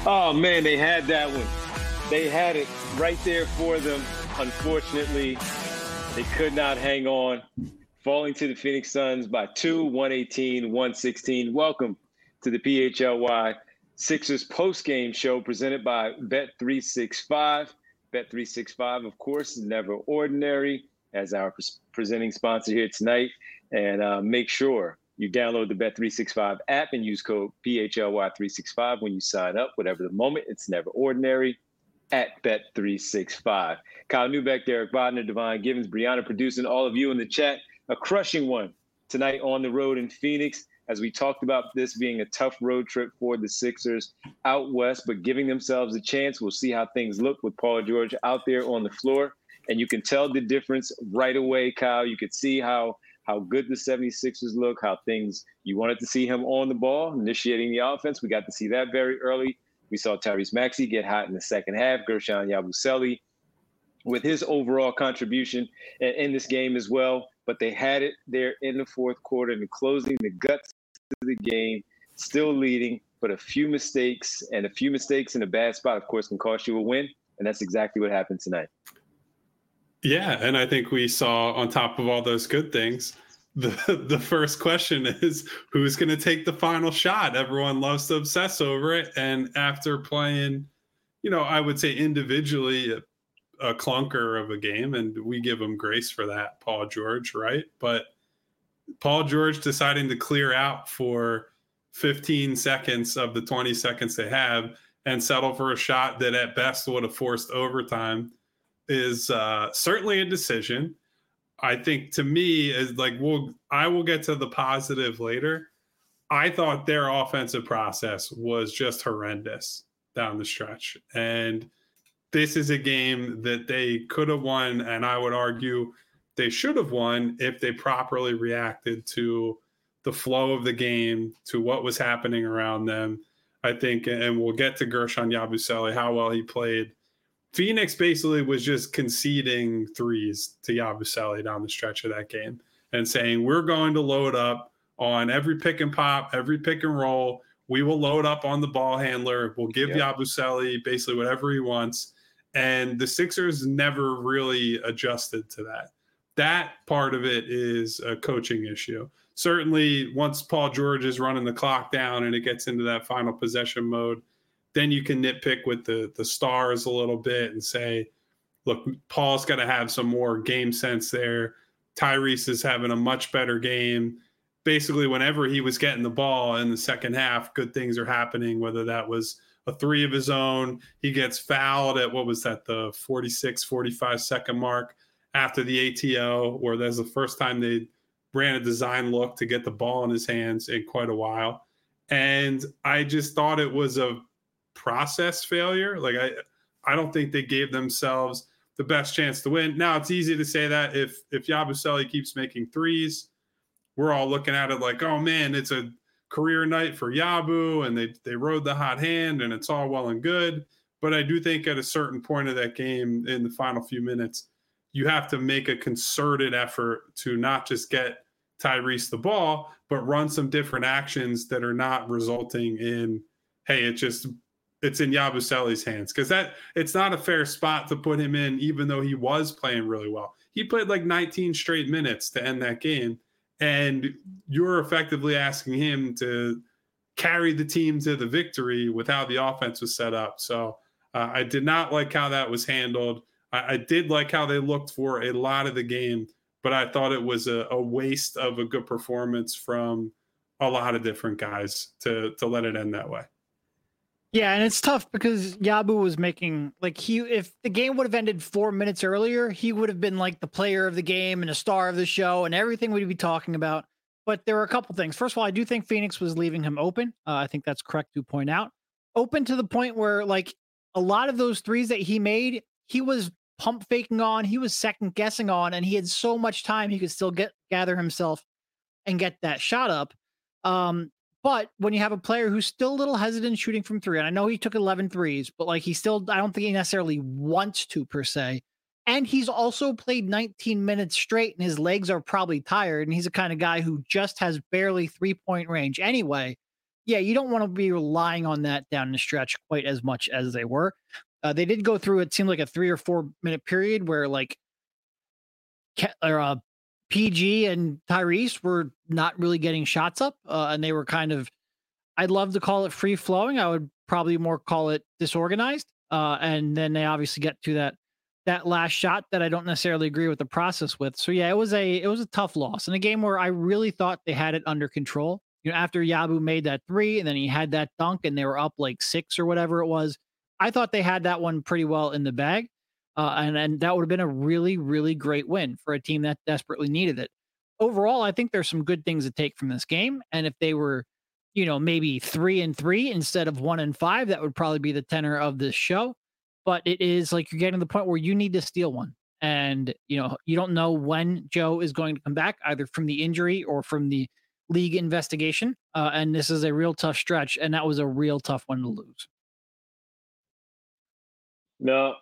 Oh, man, they had that one. They had it right there for them. Unfortunately, they could not hang on, falling to the Phoenix Suns by 2, 118-116. Welcome to the PHLY Sixers postgame show presented by Bet365. Bet365, of course, is never ordinary as our presenting sponsor here tonight. And make sure you download the Bet365 app and use code PHLY365 when you sign up. Whatever the moment, it's never ordinary at Bet365. Kyle Newbeck, Derek Bodner, Devon Givens, Brianna producing, all of you in the chat. A crushing one tonight on the road in Phoenix, as we talked about this being a tough road trip for the Sixers out west, but giving themselves a chance. We'll see how things look with Paul George out there on the floor. And you can tell the difference right away, Kyle. You could see how good the 76ers look, how things you wanted to see him on the ball, initiating the offense. We got to see that very early. We saw Tyrese Maxey get hot in the second half. Guerschon Yabusele with his overall contribution in this game as well. But they had it there in the fourth quarter and closing the guts of the game, still leading, but a few mistakes in a bad spot, of course, can cost you a win. And that's exactly what happened tonight. Yeah, and I think we saw, on top of all those good things, the first question is, who's going to take the final shot? Everyone loves to obsess over it. And after playing, I would say individually a clunker of a game, and we give him grace for that, Paul George, right? But Paul George deciding to clear out for 15 seconds of the 20 seconds they have and settle for a shot that at best would have forced overtime is certainly a decision. I think, to me, is like, I will get to the positive later. I thought their offensive process was just horrendous down the stretch. And this is a game that they could have won, and I would argue they should have won if they properly reacted to the flow of the game, to what was happening around them. I think, and we'll get to Guerschon Yabusele, how well he played. Phoenix basically was just conceding threes to Yabusele down the stretch of that game and saying, we're going to load up on every pick and pop, every pick and roll. We will load up on the ball handler. We'll give Yabusele basically whatever he wants. And the Sixers never really adjusted to that. That part of it is a coaching issue. Certainly, once Paul George is running the clock down and it gets into that final possession mode, then you can nitpick with the stars a little bit and say, look, Paul's got to have some more game sense there. Tyrese is having a much better game. Basically, whenever he was getting the ball in the second half, good things are happening, whether that was a three of his own. He gets fouled at, the 46, 45 second mark after the ATO, where that's the first time they ran a design look to get the ball in his hands in quite a while. And I just thought it was a process failure. Like, I don't think they gave themselves the best chance to win. Now, it's easy to say that if Yabusele keeps making threes, we're all looking at it like, oh man, it's a career night for Yabu and they rode the hot hand and it's all well and good. But I do think at a certain point of that game, in the final few minutes, you have to make a concerted effort to not just get Tyrese the ball, but run some different actions that are not resulting in, hey, it's in Yabusele's hands, because it's not a fair spot to put him in, even though he was playing really well. He played like 19 straight minutes to end that game, and you're effectively asking him to carry the team to the victory with how the offense was set up. So I did not like how that was handled. I did like how they looked for a lot of the game, but I thought it was a waste of a good performance from a lot of different guys to let it end that way. Yeah, and it's tough because Yabu was making, if the game would have ended 4 minutes earlier, he would have been like the player of the game and a star of the show and everything we'd be talking about. But there were a couple things. First of all, I do think Phoenix was leaving him open. I think that's correct to point out. Open to the point where, a lot of those threes that he made, he was pump faking on, he was second guessing on, and he had so much time he could still gather himself and get that shot up. But when you have a player who's still a little hesitant shooting from three, and I know he took 11 threes, but I don't think he necessarily wants to per se. And he's also played 19 minutes straight and his legs are probably tired. And he's the kind of guy who just has barely 3-point range anyway. yeah, you don't want to be relying on that down the stretch quite as much as they were. They did go through, it seemed like a 3 or 4 minute period where like PG and Tyrese were not really getting shots up, and they were kind of, I'd love to call it free flowing. I would probably more call it disorganized. And then they obviously get to that last shot that I don't necessarily agree with the process with. So yeah, it was a tough loss in a game where I really thought they had it under control. You know, after Yabu made that 3 and then he had that dunk and they were up like 6 or whatever it was, I thought they had that one pretty well in the bag. And that would have been a really, really great win for a team that desperately needed it. Overall, I think there's some good things to take from this game. And if they were, you know, maybe 3-3 instead of 1-5, that would probably be the tenor of this show. But it is like you're getting to the point where you need to steal one. And, you know, you don't know when Joe is going to come back, either from the injury or from the league investigation. And this is a real tough stretch. And that was a real tough one to lose. No,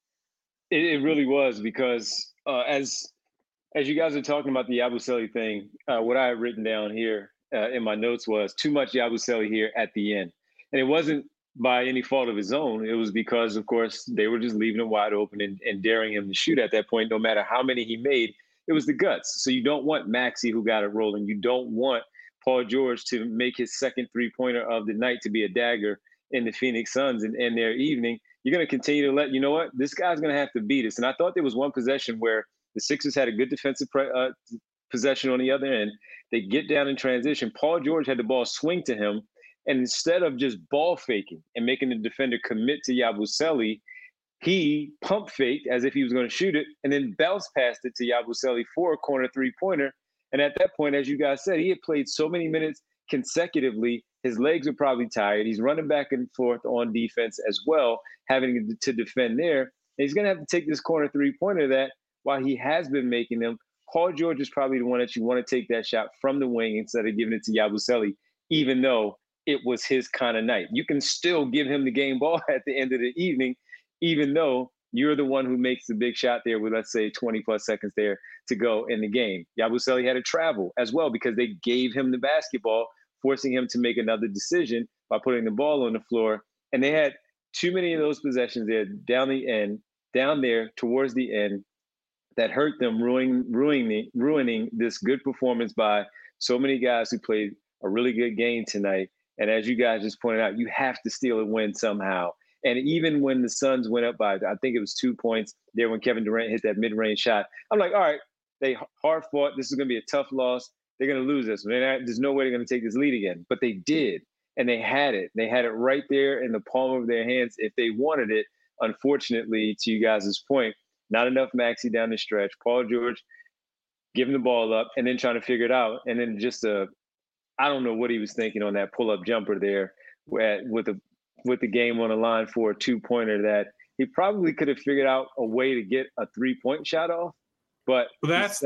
it really was, because as you guys are talking about the Yabusele thing, what I had written down here in my notes was too much Yabusele here at the end. And it wasn't by any fault of his own. It was because, of course, they were just leaving him wide open and daring him to shoot at that point, no matter how many he made. It was the guts. So you don't want Maxey, who got it rolling. You don't want Paul George to make his second three-pointer of the night to be a dagger in the Phoenix Suns and end their evening. You're going to continue to you know what, this guy's going to have to beat us. And I thought there was one possession where the Sixers had a good defensive possession on the other end. They get down in transition. Paul George had the ball swing to him. And instead of just ball faking and making the defender commit to Yabusele, he pump faked as if he was going to shoot it and then bounce passed it to Yabusele for a corner three-pointer. And at that point, as you guys said, he had played so many minutes consecutively. His legs are probably tired. He's running back and forth on defense as well, having to defend there. And he's going to have to take this corner three-pointer that, while he has been making them, Paul George is probably the one that you want to take that shot from the wing instead of giving it to Yabusele, even though it was his kind of night. You can still give him the game ball at the end of the evening, even though you're the one who makes the big shot there with, let's say, 20 plus seconds there to go in the game. Yabusele had to travel as well because they gave him the basketball, forcing him to make another decision by putting the ball on the floor. And they had too many of those possessions there down there towards the end that hurt them, ruining this good performance by so many guys who played a really good game tonight. And as you guys just pointed out, you have to steal a win somehow. And even when the Suns went up by, I think it was 2 points there when Kevin Durant hit that mid-range shot, I'm like, all right, they hard fought. This is going to be a tough loss. They're going to lose this. There's no way they're going to take this lead again. But they did. And they had it. They had it right there in the palm of their hands if they wanted it. Unfortunately, to you guys' point, not enough Maxey down the stretch. Paul George giving the ball up and then trying to figure it out. And then just I don't know what he was thinking on that pull-up jumper there with the game on the line for a two-pointer that he probably could have figured out a way to get a three-point shot off. But that's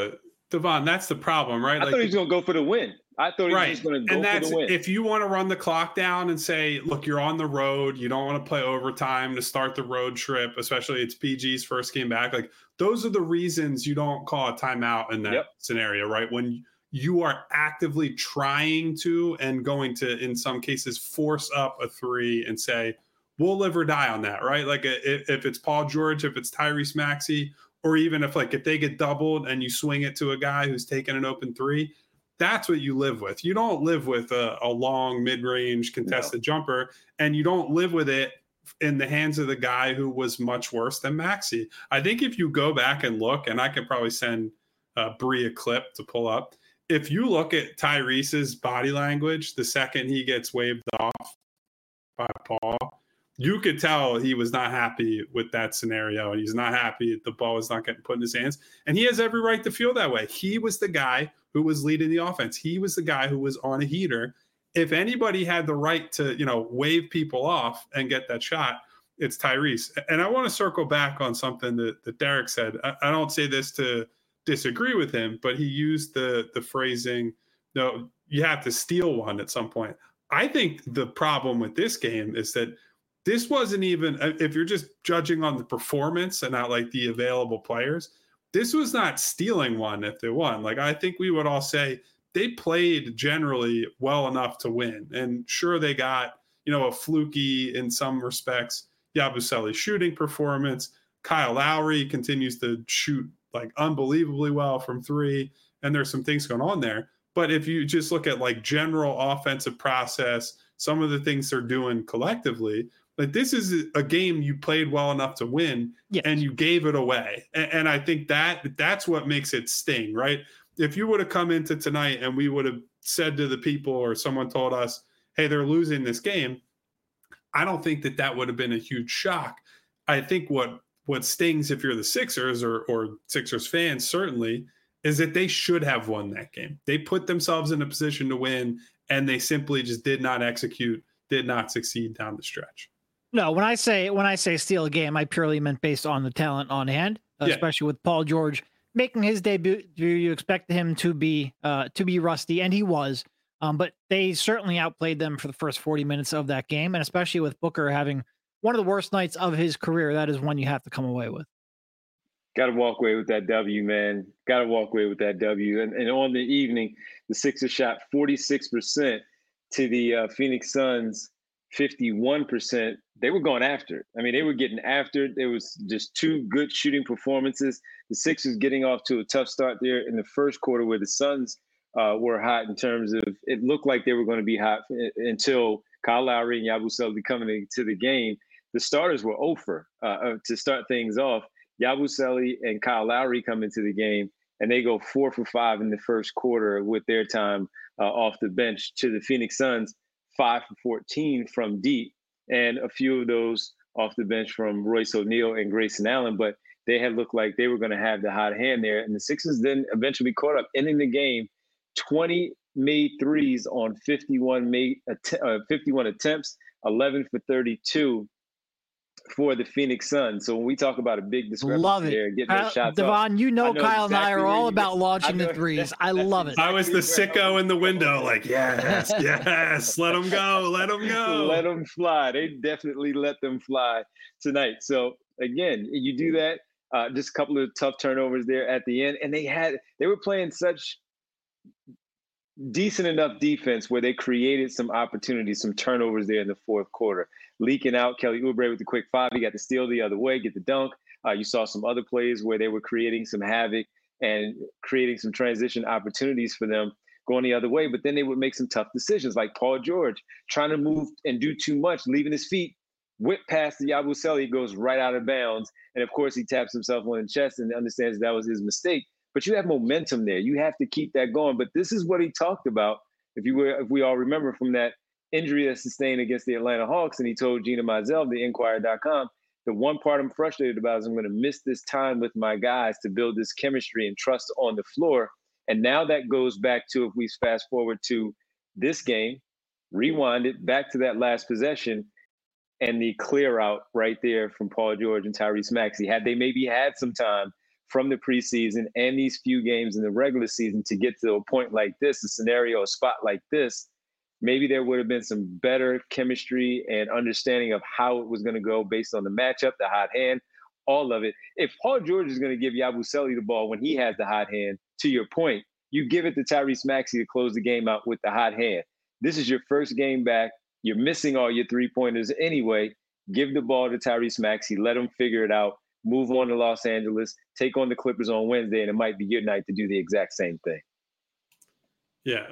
Devon, that's the problem, right? I thought he was going to go for the win. I thought he was just going to go for the win. If you want to run the clock down and say, look, you're on the road, you don't want to play overtime to start the road trip, especially it's PG's first game back. Like, those are the reasons you don't call a timeout in that scenario, right? When you are actively trying to and going to, in some cases, force up a three and say, we'll live or die on that, right? Like if it's Paul George, if it's Tyrese Maxey, or even if they get doubled and you swing it to a guy who's taking an open three, that's what you live with. You don't live with a long mid-range contested jumper, and you don't live with it in the hands of the guy who was much worse than Maxey. I think if you go back and look, and I could probably send Bree a clip to pull up, if you look at Tyrese's body language the second he gets waved off by Paul, you could tell he was not happy with that scenario, and he's not happy the ball is not getting put in his hands. And he has every right to feel that way. He was the guy who was leading the offense. He was the guy who was on a heater. If anybody had the right to, wave people off and get that shot, it's Tyrese. And I want to circle back on something that Derek said. I don't say this to disagree with him, but he used the phrasing, no, you have to steal one at some point. I think the problem with this game is that this wasn't even, if you're just judging on the performance and not like the available players, this was not stealing one if they won. Like, I think we would all say they played generally well enough to win. And sure, they got, a fluky in some respects Yabusele shooting performance. Kyle Lowry continues to shoot like unbelievably well from three, and there's some things going on there. But if you just look at like general offensive process, some of the things they're doing collectively, like this is a game you played well enough to win, yes, and you gave it away. And I think that's what makes it sting, right? If you would have come into tonight and we would have said to the people, or someone told us, hey, they're losing this game, I don't think that would have been a huge shock. I think what stings, if you're the Sixers or Sixers fans, certainly, is that they should have won that game. They put themselves in a position to win, and they simply just did not execute, did not succeed down the stretch. No, when I say steal a game, I purely meant based on the talent on hand, especially with Paul George making his debut. You expect him to be rusty, and he was. But they certainly outplayed them for the first 40 minutes of that game, and especially with Booker having one of the worst nights of his career, that is one you have to come away with. Got to walk away with that W, man. Got to walk away with that W. And on the evening, the Sixers shot 46% to the Phoenix Suns 51%. They were going after it. I mean, they were getting after it. There was just two good shooting performances. The Sixers getting off to a tough start there in the first quarter, where the Suns were hot in terms of, it looked like they were going to be hot until Kyle Lowry and Yabusele coming into the game. The starters were 0 to start things off. Yabusele and Kyle Lowry come into the game, and they go 4 for 5 in the first quarter with their time off the bench, to the Phoenix Suns 5 for 14 from deep, and a few of those off the bench from Royce O'Neal and Grayson Allen. But they had looked like they were going to have the hot hand there. And the Sixers then eventually caught up, ending the game 20 made threes on 51 attempts, 11 for 32 for the Phoenix Suns. So when we talk about a big discrepancy there, getting those shots Devon, off, Kyle and I are all about launching the threes. I love it. I was the sicko in the window, like, yes, let them go. Let them fly. They definitely let them fly tonight. So again, you do that. Just a couple of tough turnovers there at the end, and they were playing such decent enough defense where they created some opportunities, some turnovers there in the fourth quarter. Leaking out, Kelly Oubre with the quick 5. He got the steal the other way, get the dunk. You saw some other plays where they were creating some havoc and creating some transition opportunities for them going the other way. But then they would make some tough decisions, like Paul George trying to move and do too much, leaving his feet, whip past the Yabusele, goes right out of bounds. And of course, he taps himself on the chest and understands that was his mistake. But you have momentum there. You have to keep that going. But this is what he talked about, if we all remember, from that injury that sustained against the Atlanta Hawks. And he told Gina Mizell of the Inquirer.com, the one part I'm frustrated about is I'm going to miss this time with my guys to build this chemistry and trust on the floor. And now that goes back to, if we fast forward to this game, rewind it back to that last possession, and the clear out right there from Paul George and Tyrese Maxey. Had they maybe had some time from the preseason and these few games in the regular season to get to a point like this, a scenario, a spot like this, maybe there would have been some better chemistry and understanding of how it was going to go based on the matchup, the hot hand, all of it. If Paul George is going to give Yabusele the ball when he has the hot hand, to your point, you give it to Tyrese Maxey to close the game out with the hot hand. This is your first game back. You're missing all your three-pointers anyway. Give the ball to Tyrese Maxey. Let him figure it out. Move on to Los Angeles. Take on the Clippers on Wednesday, and it might be your night to do the exact same thing. Yeah.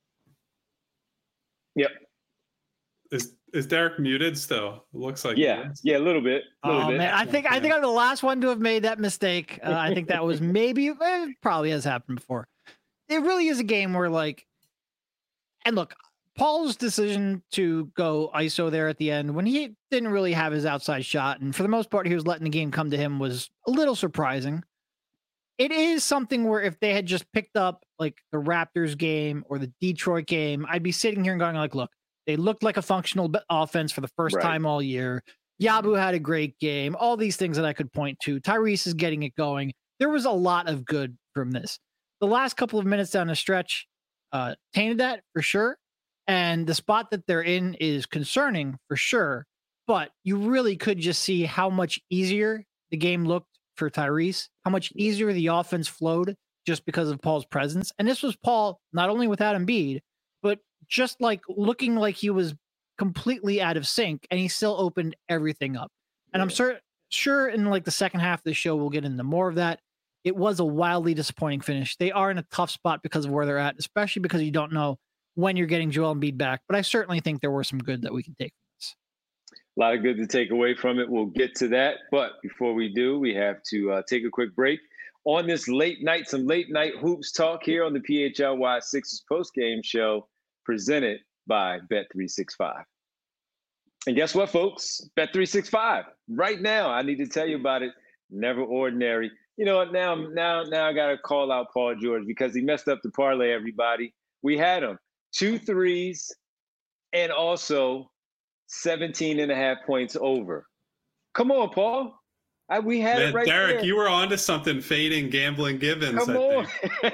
Yep. Is Derek muted still? It looks like yeah, a little bit. Man, I think I'm the last one to have made that mistake. I think that was maybe probably has happened before. It really is a game where, like, and look, Paul's decision to go ISO there at the end when he didn't really have his outside shot, and for the most part he was letting the game come to him, was a little surprising. It is something where if they had just picked up like the Raptors game or the Detroit game, I'd be sitting here and going like, look, they looked like a functional offense for the first time all year. Yabu had a great game. All these things that I could point to. Tyrese is getting it going. There was a lot of good from this. The last couple of minutes down the stretch tainted that for sure. And the spot that they're in is concerning for sure. But you really could just see how much easier the game looked for Tyrese, how much easier the offense flowed just because of Paul's presence. And this was Paul not only without Embiid, but just like looking like he was completely out of sync, and he still opened everything up. And I'm sure in like the second half of the show we'll get into more of that. It was a wildly disappointing finish. They are in a tough spot because of where they're at, especially because you don't know when you're getting Joel Embiid back. But I certainly think there were some good that we can take from this. A lot of good to take away from it. We'll get to that. But before we do, we have to take a quick break. On this some late night hoops talk here on the PHLY Sixers postgame show presented by Bet365. And guess what, folks? Bet365. Right now, I need to tell you about it. Never ordinary. You know what? Now I got to call out Paul George because he messed up the parlay, everybody. We had him 2 threes and also 17.5 points over. Come on, Paul. We had it right Derek, there. You were onto something, fading Gambling Givens. Come on.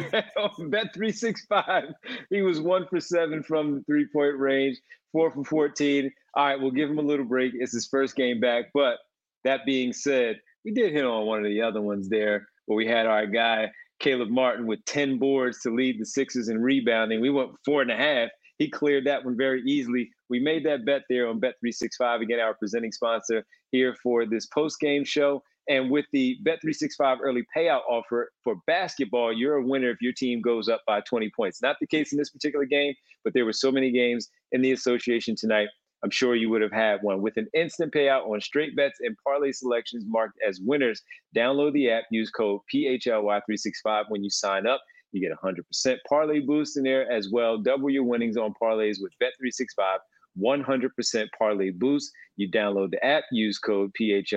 Bet365. He was 1 for 7 from the 3-point range, 4 for 14. All right, we'll give him a little break. It's his first game back. But that being said, we did hit on one of the other ones there where we had our guy, Caleb Martin, with 10 boards to lead the Sixers in rebounding. We went 4.5. He cleared that one very easily. We made that bet there on Bet365, again, our presenting sponsor here for this post-game show. And with the Bet365 early payout offer for basketball, you're a winner if your team goes up by 20 points. Not the case in this particular game, but there were so many games in the association tonight. I'm sure you would have had one. With an instant payout on straight bets and parlay selections marked as winners, download the app, use code PHLY365 when you sign up. You get 100% parlay boost in there as well. Double your winnings on parlays with Bet365. 100% parlay boost. You download the app, use code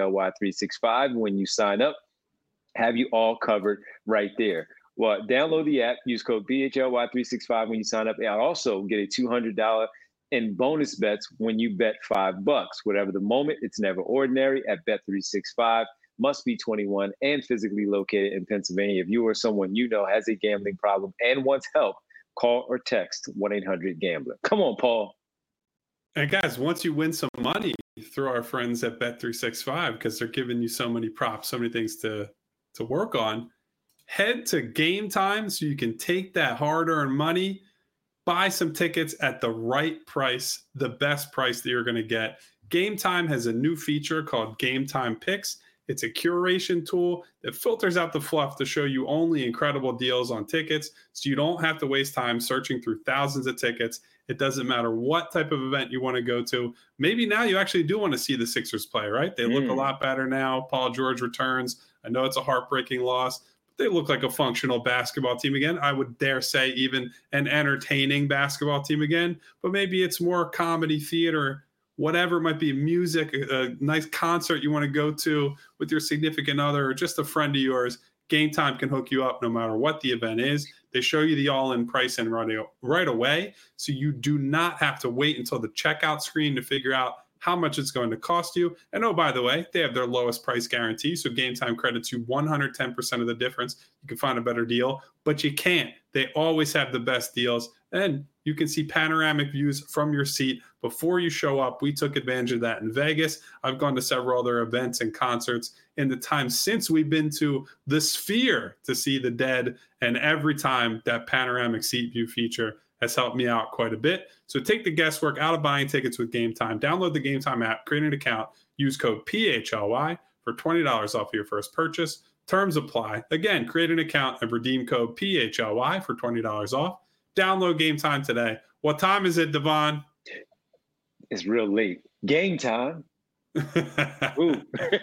PHLY365 when you sign up. Have you all covered right there. Well, download the app, use code PHLY365 when you sign up. And I'll also get a $200 in bonus bets when you bet $5. Whatever the moment, it's never ordinary at Bet365. Must be 21 and physically located in Pennsylvania. If you or someone you know has a gambling problem and wants help, call or text 1-800-GAMBLER. Come on, Paul. And guys, once you win some money through our friends at Bet365, because they're giving you so many props, so many things to work on, head to Game Time so you can take that hard-earned money, buy some tickets at the right price, the best price that you're going to get. Game Time has a new feature called Game Time Picks. It's a curation tool that filters out the fluff to show you only incredible deals on tickets, so you don't have to waste time searching through thousands of tickets. It doesn't matter what type of event you want to go to. Maybe now you actually do want to see the Sixers play, right? They look a lot better now. Paul George returns. I know it's a heartbreaking loss, but they look like a functional basketball team again. I would dare say even an entertaining basketball team again, but maybe it's more comedy, theater, whatever it might be, music, a nice concert you want to go to with your significant other or just a friend of yours. Game Time can hook you up no matter what the event is. They show you the all-in price and right away, so you do not have to wait until the checkout screen to figure out how much it's going to cost you. And oh, by the way, they have their lowest price guarantee, so Game Time credits you 110% of the difference. You can find a better deal, but you can't. They always have the best deals, and you can see panoramic views from your seat before you show up. We took advantage of that in Vegas. I've gone to several other events and concerts in the time since we've been to the Sphere to see the Dead, and every time that panoramic seat view feature has helped me out quite a bit. So take the guesswork out of buying tickets with Game Time. Download the Game Time app, create an account, use code PHLY for $20 off your first purchase. Terms apply. Again, create an account and redeem code PHLY for $20 off. Download Game Time today. What time is it, Devon? It's real late. Game time. Ooh.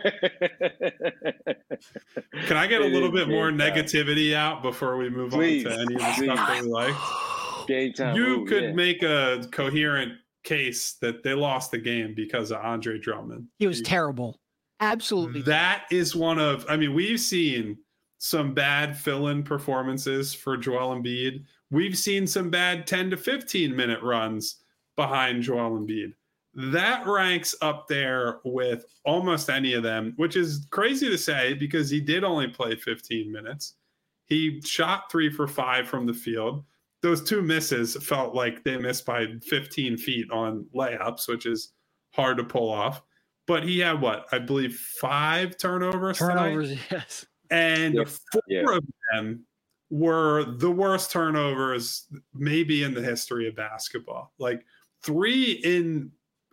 Can I get a little bit more negativity out before we move on to any of the stuff that we like? Game time. You could make a coherent case that they lost the game because of Andre Drummond. He was terrible. Absolutely. That is one of, I mean, we've seen some bad fill-in performances for Joel Embiid. We've seen some bad 10 to 15 minute runs behind Joel Embiid. That ranks up there with almost any of them, which is crazy to say because he did only play 15 minutes. He shot 3 for 5 from the field. Those 2 misses felt like they missed by 15 feet on layups, which is hard to pull off. But he had I believe 5 turnovers tonight? Yes. And 4 of them were the worst turnovers maybe in the history of basketball. Like 2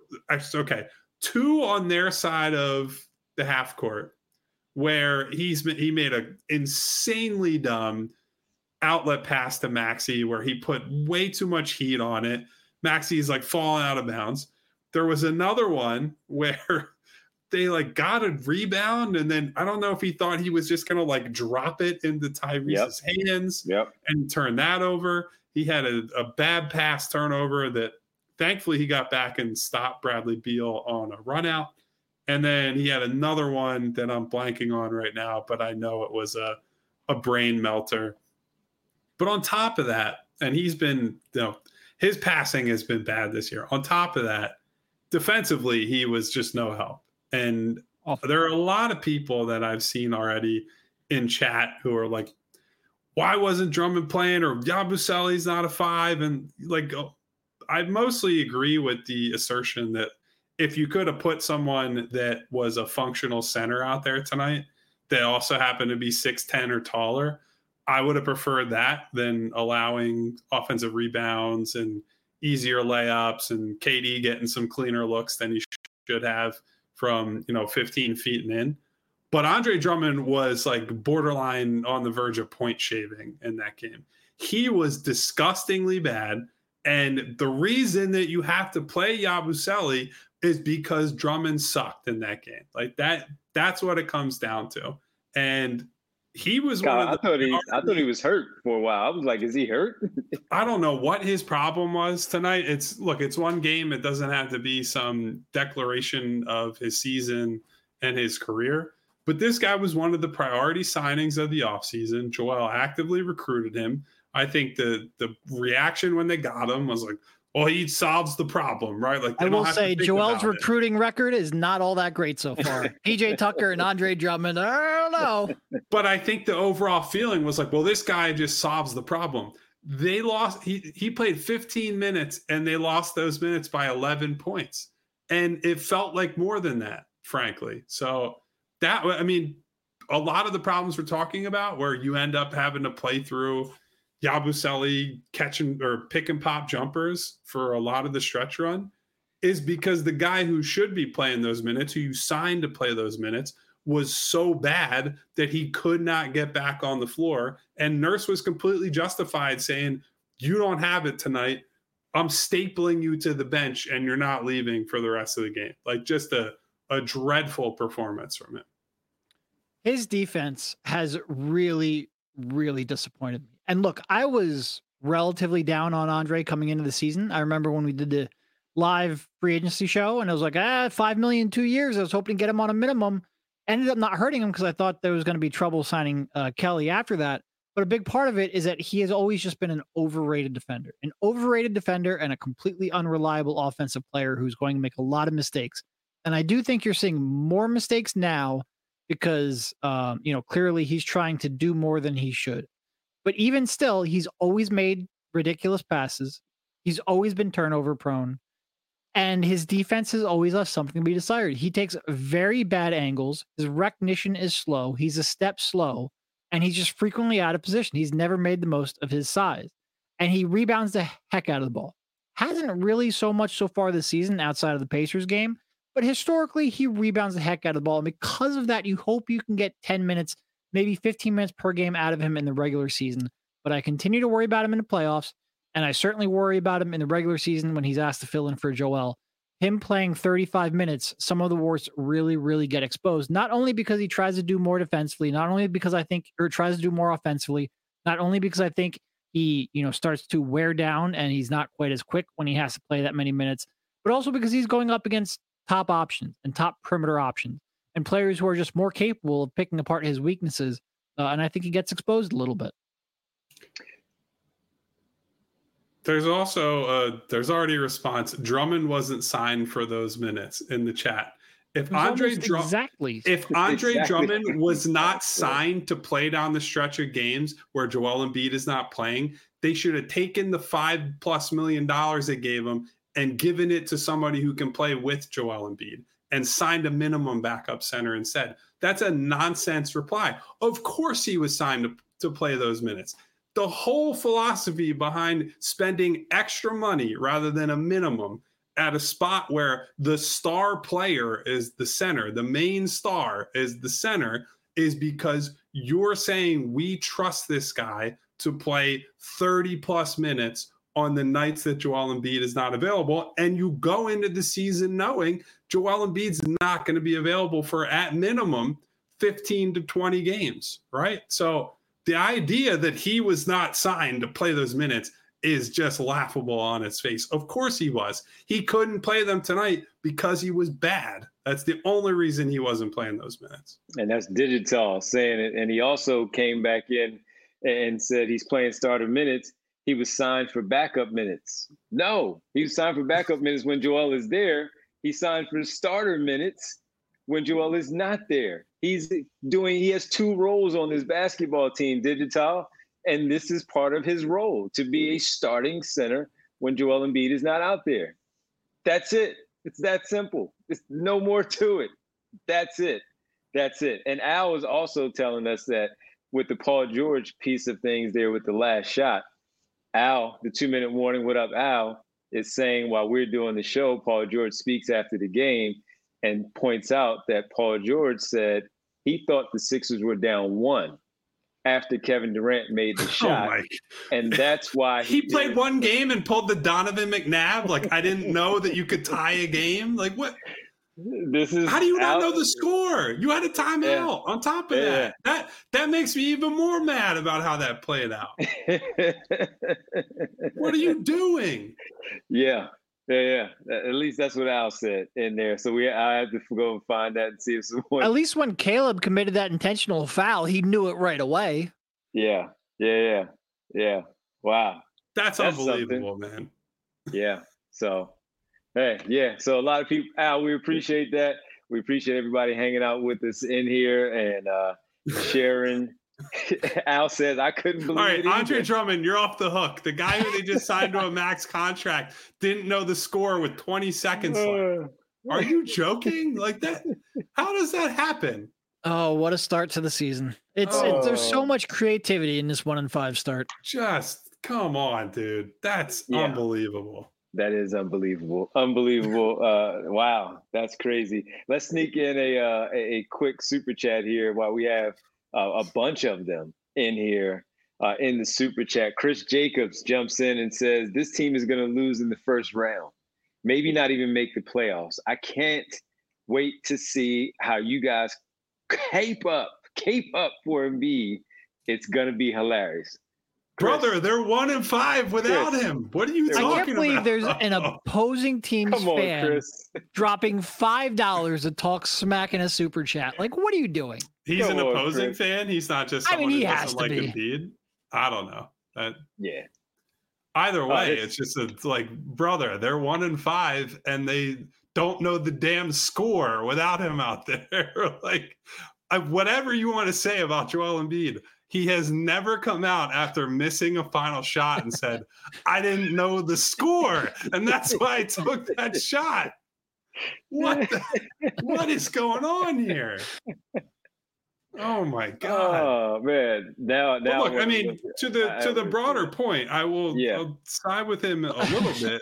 on their side of the half court where he made an insanely dumb outlet pass to Maxey where he put way too much heat on it. Maxey's like falling out of bounds. There was another one where they like got a rebound, and then I don't know if he thought he was just gonna like drop it into Tyrese's hands and turn that over. He had a bad pass turnover that thankfully he got back and stopped Bradley Beal on a run out. And then he had another one that I'm blanking on right now, but I know it was a brain melter. But on top of that, and he's been, his passing has been bad this year. On top of that, defensively, he was just no help. And there are a lot of people that I've seen already in chat who are like, why wasn't Drummond playing? Or Yabusele's not a 5. And like, I mostly agree with the assertion that if you could have put someone that was a functional center out there tonight that also happened to be 6'10" or taller, I would have preferred that than allowing offensive rebounds and easier layups and KD getting some cleaner looks than he should have from 15 feet and in. But Andre Drummond was like borderline on the verge of point shaving in that game. He was disgustingly bad. And the reason that you have to play Yabusele is because Drummond sucked in that game. Like that's what it comes down to. And he was I thought he was hurt for a while. I was like, is he hurt? I don't know what his problem was tonight. It's one game. It doesn't have to be some declaration of his season and his career. But this guy was one of the priority signings of the offseason. Joel actively recruited him. I think the reaction when they got him was like, well, he solves the problem, right? Like I will say Joel's recruiting record is not all that great so far. PJ Tucker and Andre Drummond, I don't know. But I think the overall feeling was like, well, this guy just solves the problem. They lost. He played 15 minutes and they lost those minutes by 11 points. And it felt like more than that, frankly. So a lot of the problems we're talking about where you end up having to play through Yabusele catching or pick and pop jumpers for a lot of the stretch run is because the guy who should be playing those minutes, who you signed to play those minutes, was so bad that he could not get back on the floor. And Nurse was completely justified saying, you don't have it tonight. I'm stapling you to the bench and you're not leaving for the rest of the game. Like just a dreadful performance from him. His defense has really, really disappointed me. And look, I was relatively down on Andre coming into the season. I remember when we did the live free agency show and I was like, $5 million 2 years. I was hoping to get him on a minimum. Ended up not hurting him because I thought there was going to be trouble signing Kelly after that. But a big part of it is that he has always just been an overrated defender and a completely unreliable offensive player who's going to make a lot of mistakes. And I do think you're seeing more mistakes now because, clearly he's trying to do more than he should. But even still, he's always made ridiculous passes. He's always been turnover prone. And his defense has always left something to be desired. He takes very bad angles. His recognition is slow. He's a step slow. And he's just frequently out of position. He's never made the most of his size. And he rebounds the heck out of the ball. Hasn't really so much so far this season outside of the Pacers game. But historically, he rebounds the heck out of the ball. And because of that, you hope you can get 10 minutes, maybe 15 minutes per game out of him in the regular season. But I continue to worry about him in the playoffs. And I certainly worry about him in the regular season when he's asked to fill in for Joel. Him playing 35 minutes, some of the warts really, really get exposed. Not only because he tries to do more defensively, not only because tries to do more offensively, not only because I think he, starts to wear down and he's not quite as quick when he has to play that many minutes, but also because he's going up against top options and top perimeter options and players who are just more capable of picking apart his weaknesses. And I think he gets exposed a little bit. There's also there's already a response. Drummond wasn't signed for those minutes in the chat. If Andre Drummond was not signed to play down the stretch of games where Joel Embiid is not playing, they should have taken the $5+ million they gave him and given it to somebody who can play with Joel Embiid and signed a minimum backup center instead. That's a nonsense reply. Of course he was signed to play those minutes. The whole philosophy behind spending extra money rather than a minimum at a spot where the star player is the center, the main star is the center, is because you're saying we trust this guy to play 30 plus minutes on the nights that Joel Embiid is not available. And you go into the season knowing Joel Embiid's not going to be available for at minimum 15 to 20 games, right? So the idea that he was not signed to play those minutes is just laughable on its face. Of course he was. He couldn't play them tonight because he was bad. That's the only reason he wasn't playing those minutes. And that's Digital saying it. And he also came back in and said he's playing starter minutes. He was signed for backup minutes. No, he was signed for backup minutes when Joel is there. He signed for starter minutes when Joel is not there. He has two roles on this basketball team, Digital, and this is part of his role, to be a starting center when Joel Embiid is not out there. That's it. It's that simple. It's no more to it. That's it. That's it. And Al was also telling us that with the Paul George piece of things there with the last shot, Al, the 2-minute warning, what up, Al, is saying while we're doing the show, Paul George speaks after the game and points out that Paul George said he thought the Sixers were down 1 after Kevin Durant made the shot. And that's why he played one game and pulled the Donovan McNabb. Like, I didn't know that you could tie a game. Like, what? How do you not know the score? You had a timeout on top of that. That makes me even more mad about how that played out. What are you doing? Yeah. At least that's what Al said in there. So I have to go and find that and see if someone. At least when Caleb committed that intentional foul, he knew it right away. Yeah. Wow. That's unbelievable, man. Yeah. So, hey, yeah. So a lot of people, Al, we appreciate that. We appreciate everybody hanging out with us in here and sharing. Al says, I couldn't believe it. All right, Andre Drummond, you're off the hook. The guy who they just signed to a max contract didn't know the score with 20 seconds left. Are you joking? Like that? How does that happen? Oh, what a start to the season. There's so much creativity in this 1-5 start. Just come on, dude. That's unbelievable. That is unbelievable. Unbelievable. Wow, that's crazy. Let's sneak in a quick super chat here while we have a bunch of them in here in the super chat. Chris Jacobs jumps in and says, this team is going to lose in the first round. Maybe not even make the playoffs. I can't wait to see how you guys cape up for Embiid. It's going to be hilarious. Chris, brother, they're 1-5 without him. What are you talking about? I can't believe there's an opposing team's fan dropping $5 to talk smack in a super chat. Like, what are you doing? He's an opposing fan. He's not just someone who doesn't like Embiid. I don't know. Either way, it's just like, brother, they're 1-5 and they don't know the damn score without him out there. Like, whatever you want to say about Joel Embiid, he has never come out after missing a final shot and said, I didn't know the score, and that's why I took that shot. What is going on here? Oh my God. Oh man. Now look, I mean, to the broader point, I will I'll side with him a little bit.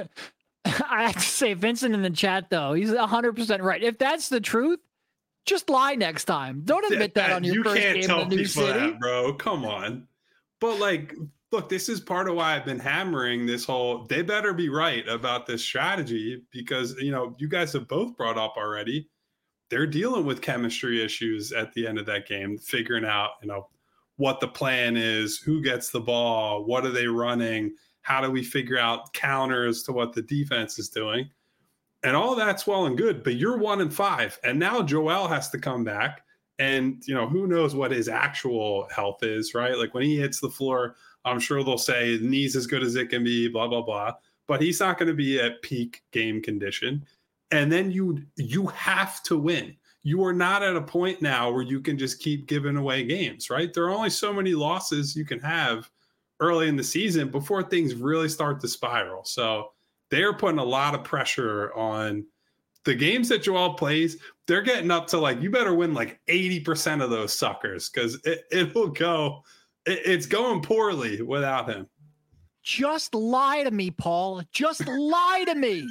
I have to say, Vincent in the chat though, he's 100% right. If that's the truth, just lie next time. Don't admit that on your first game in the new city. You can't tell people that, bro. Come on. But like, look, this is part of why I've been hammering this whole, they better be right about this strategy because, you guys have both brought up already, they're dealing with chemistry issues at the end of that game, figuring out, what the plan is, who gets the ball, what are they running, how do we figure out counters to what the defense is doing. And all that's well and good, but you're 1-5. And now Joel has to come back. And, who knows what his actual health is, right? Like when he hits the floor, I'm sure they'll say knee's as good as it can be, blah, blah, blah. But he's not going to be at peak game condition. And then you have to win. You are not at a point now where you can just keep giving away games, right? There are only so many losses you can have early in the season before things really start to spiral. So they're putting a lot of pressure on the games that Joel plays. They're getting up to you better win 80% of those suckers because it'll go It's going poorly without him. Just lie to me, Paul. Just lie to me.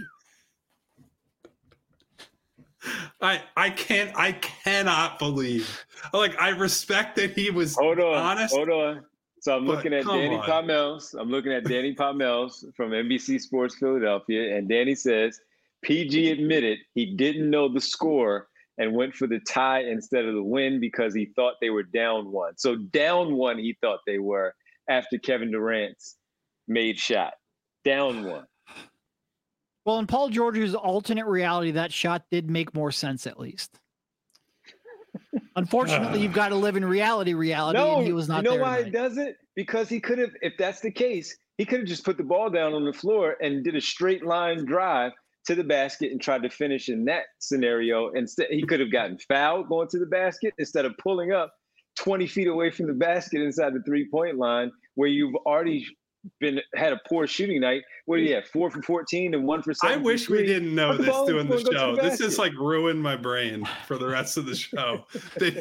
I cannot believe. Like, I respect that he was honest. Hold on. So I'm looking at Danny Palmels. I'm looking at Danny Palmels from NBC Sports Philadelphia, and Danny says PG admitted he didn't know the score and went for the tie instead of the win because he thought they were down one. So down one, he thought they were after Kevin Durant's made shot. Down one. Well, in Paul George's alternate reality, that shot did make more sense, at least. Unfortunately, you've got to live in reality, no, and he was not there. You know why tonight. it doesn't? Because he could have, if that's the case, he could have just put the ball down on the floor and did a straight line drive to the basket and tried to finish in that scenario. Instead, he could have gotten fouled going to the basket instead of pulling up 20 feet away from the basket inside the 3-point line where you've already had a poor shooting night. What do you have? 4 for 14 and 1 for 7. I wish we didn't know this doing the show. This just like ruined my brain for the rest of the show. That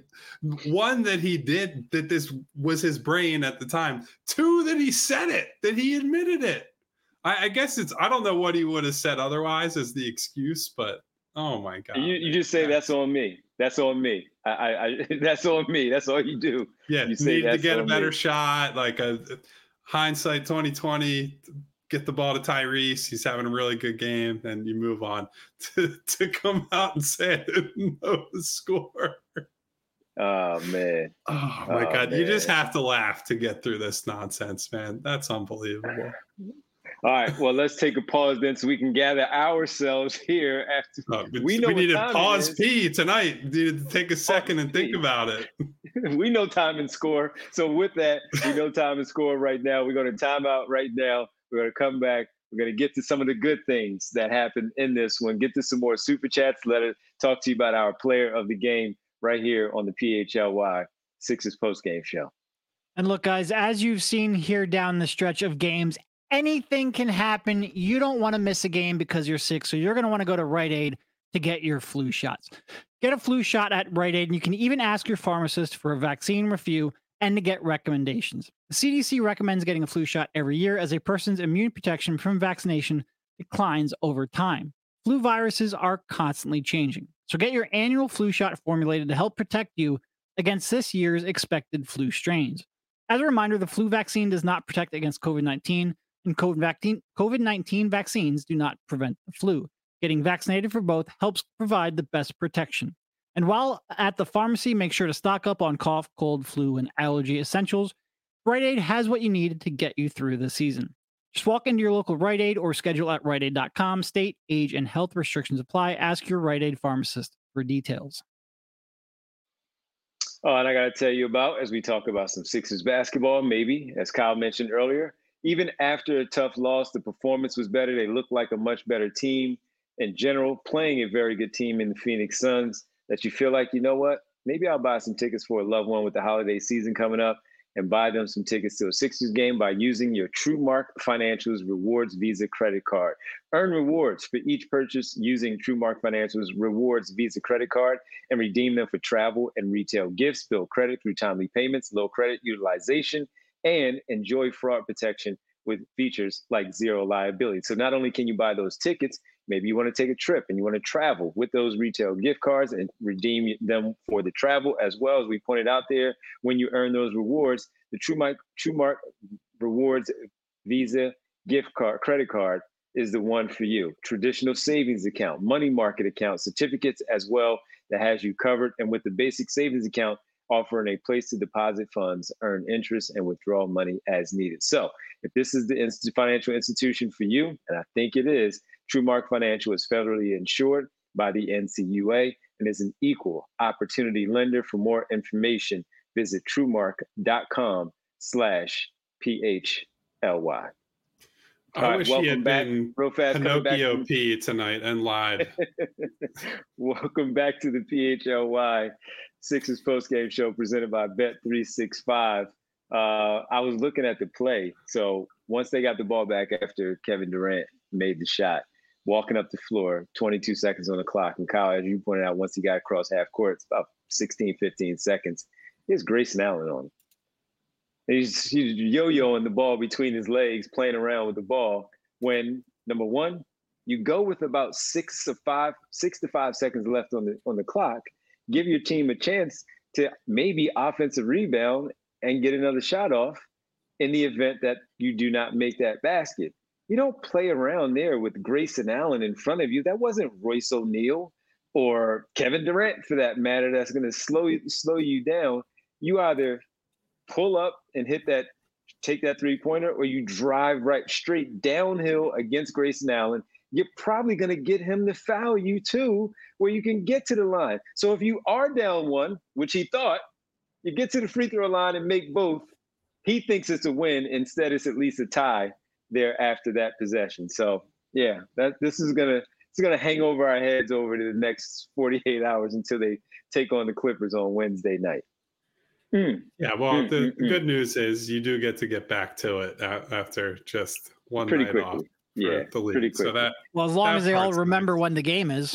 he did, that this was his brain at the time. 2, that he said it, that he admitted it. I guess I don't know what he would have said otherwise as the excuse, but oh my God. You just say that's on me. That's on me. That's on me. That's all you do. Yeah, you say need to get a better shot, like a hindsight 2020, get the ball to Tyrese. He's having a really good game, and you move on. To come out and say I didn't know the score. Oh man. Oh my God. Man. You just have to laugh to get through this nonsense, man. That's unbelievable. All right. Well, let's take a pause then so we can gather ourselves here after we needed pause P tonight. We needed to take a second and think about it. We know time and score. So with that, we know time and score right now. We're going to time out right now. We're going to come back. We're going to get to some of the good things that happened in this one. Get to some more super chats. Let us talk to you about our player of the game right here on the PHLY Sixers postgame show. And look, guys, as you've seen here down the stretch of games, anything can happen. You don't want to miss a game because you're sick, so you're going to want to go to Rite Aid to get your flu shots. Get a flu shot at Rite Aid, and you can even ask your pharmacist for a vaccine review and to get recommendations. The CDC recommends getting a flu shot every year as a person's immune protection from vaccination declines over time. Flu viruses are constantly changing, so get your annual flu shot formulated to help protect you against this year's expected flu strains. As a reminder, the flu vaccine does not protect against COVID-19, and COVID-19 vaccines do not prevent the flu. Getting vaccinated for both helps provide the best protection. And while at the pharmacy, make sure to stock up on cough, cold, flu, and allergy essentials. Rite Aid has what you need to get you through the season. Just walk into your local Rite Aid or schedule at riteaid.com. State, age, and health restrictions apply. Ask your Rite Aid pharmacist for details. Oh, and I got to tell you about, as we talk about some Sixers basketball, maybe, as Kyle mentioned earlier, even after a tough loss, the performance was better. They looked like a much better team in general, playing a very good team in the Phoenix Suns, that you feel like, you know what, maybe I'll buy some tickets for a loved one with the holiday season coming up and buy them some tickets to a Sixers game by using your TrueMark Financial's Rewards Visa credit card. Earn rewards for each purchase using TrueMark Financial's Rewards Visa credit card and redeem them for travel and retail gifts. Build credit through timely payments, low credit utilization, and enjoy fraud protection with features like zero liability. So not only can you buy those tickets, maybe you want to take a trip and you want to travel with those retail gift cards and redeem them for the travel as well. As we pointed out there, when you earn those rewards, the TrueMark Rewards Visa gift card, credit card is the one for you. Traditional savings account, money market account, certificates as well that has you covered. And with the basic savings account, offering a place to deposit funds, earn interest, and withdraw money as needed. So if this is the financial institution for you, and I think it is, TrueMark Financial is federally insured by the NCUA and is an equal opportunity lender. For more information, visit truemark.com/PHLY. I wish he had been Pinocchio P tonight and lied. Welcome back to the PHLY Sixers postgame show presented by Bet365. I was looking at the play. So once they got the ball back after Kevin Durant made the shot, walking up the floor, 22 seconds on the clock. And Kyle, as you pointed out, once he got across half court, it's about 16, 15 seconds. He has Grayson Allen on him. He's yo-yoing the ball between his legs, playing around with the ball. When number one, you go with about 6 to 5 seconds left on the clock, give your team a chance to maybe offensive rebound and get another shot off in the event that you do not make that basket. You don't play around there with Grayson Allen in front of you. That wasn't Royce O'Neal or Kevin Durant, for that matter, that's going to slow you down. You either pull up and take that three-pointer, or you drive right straight downhill against Grayson Allen. You're probably going to get him to foul you too, where you can get to the line. So if you are down one, which he thought, you get to the free throw line and make both, he thinks it's a win. Instead, it's at least a tie there after that possession. So yeah, this is gonna hang over our heads over the next 48 hours until they take on the Clippers on Wednesday night. Yeah, well, the good news is you do get back to it after just one pretty night quickly. off. Yeah, the league. pretty quickly. So well, as long as they all remember nice. when the game is.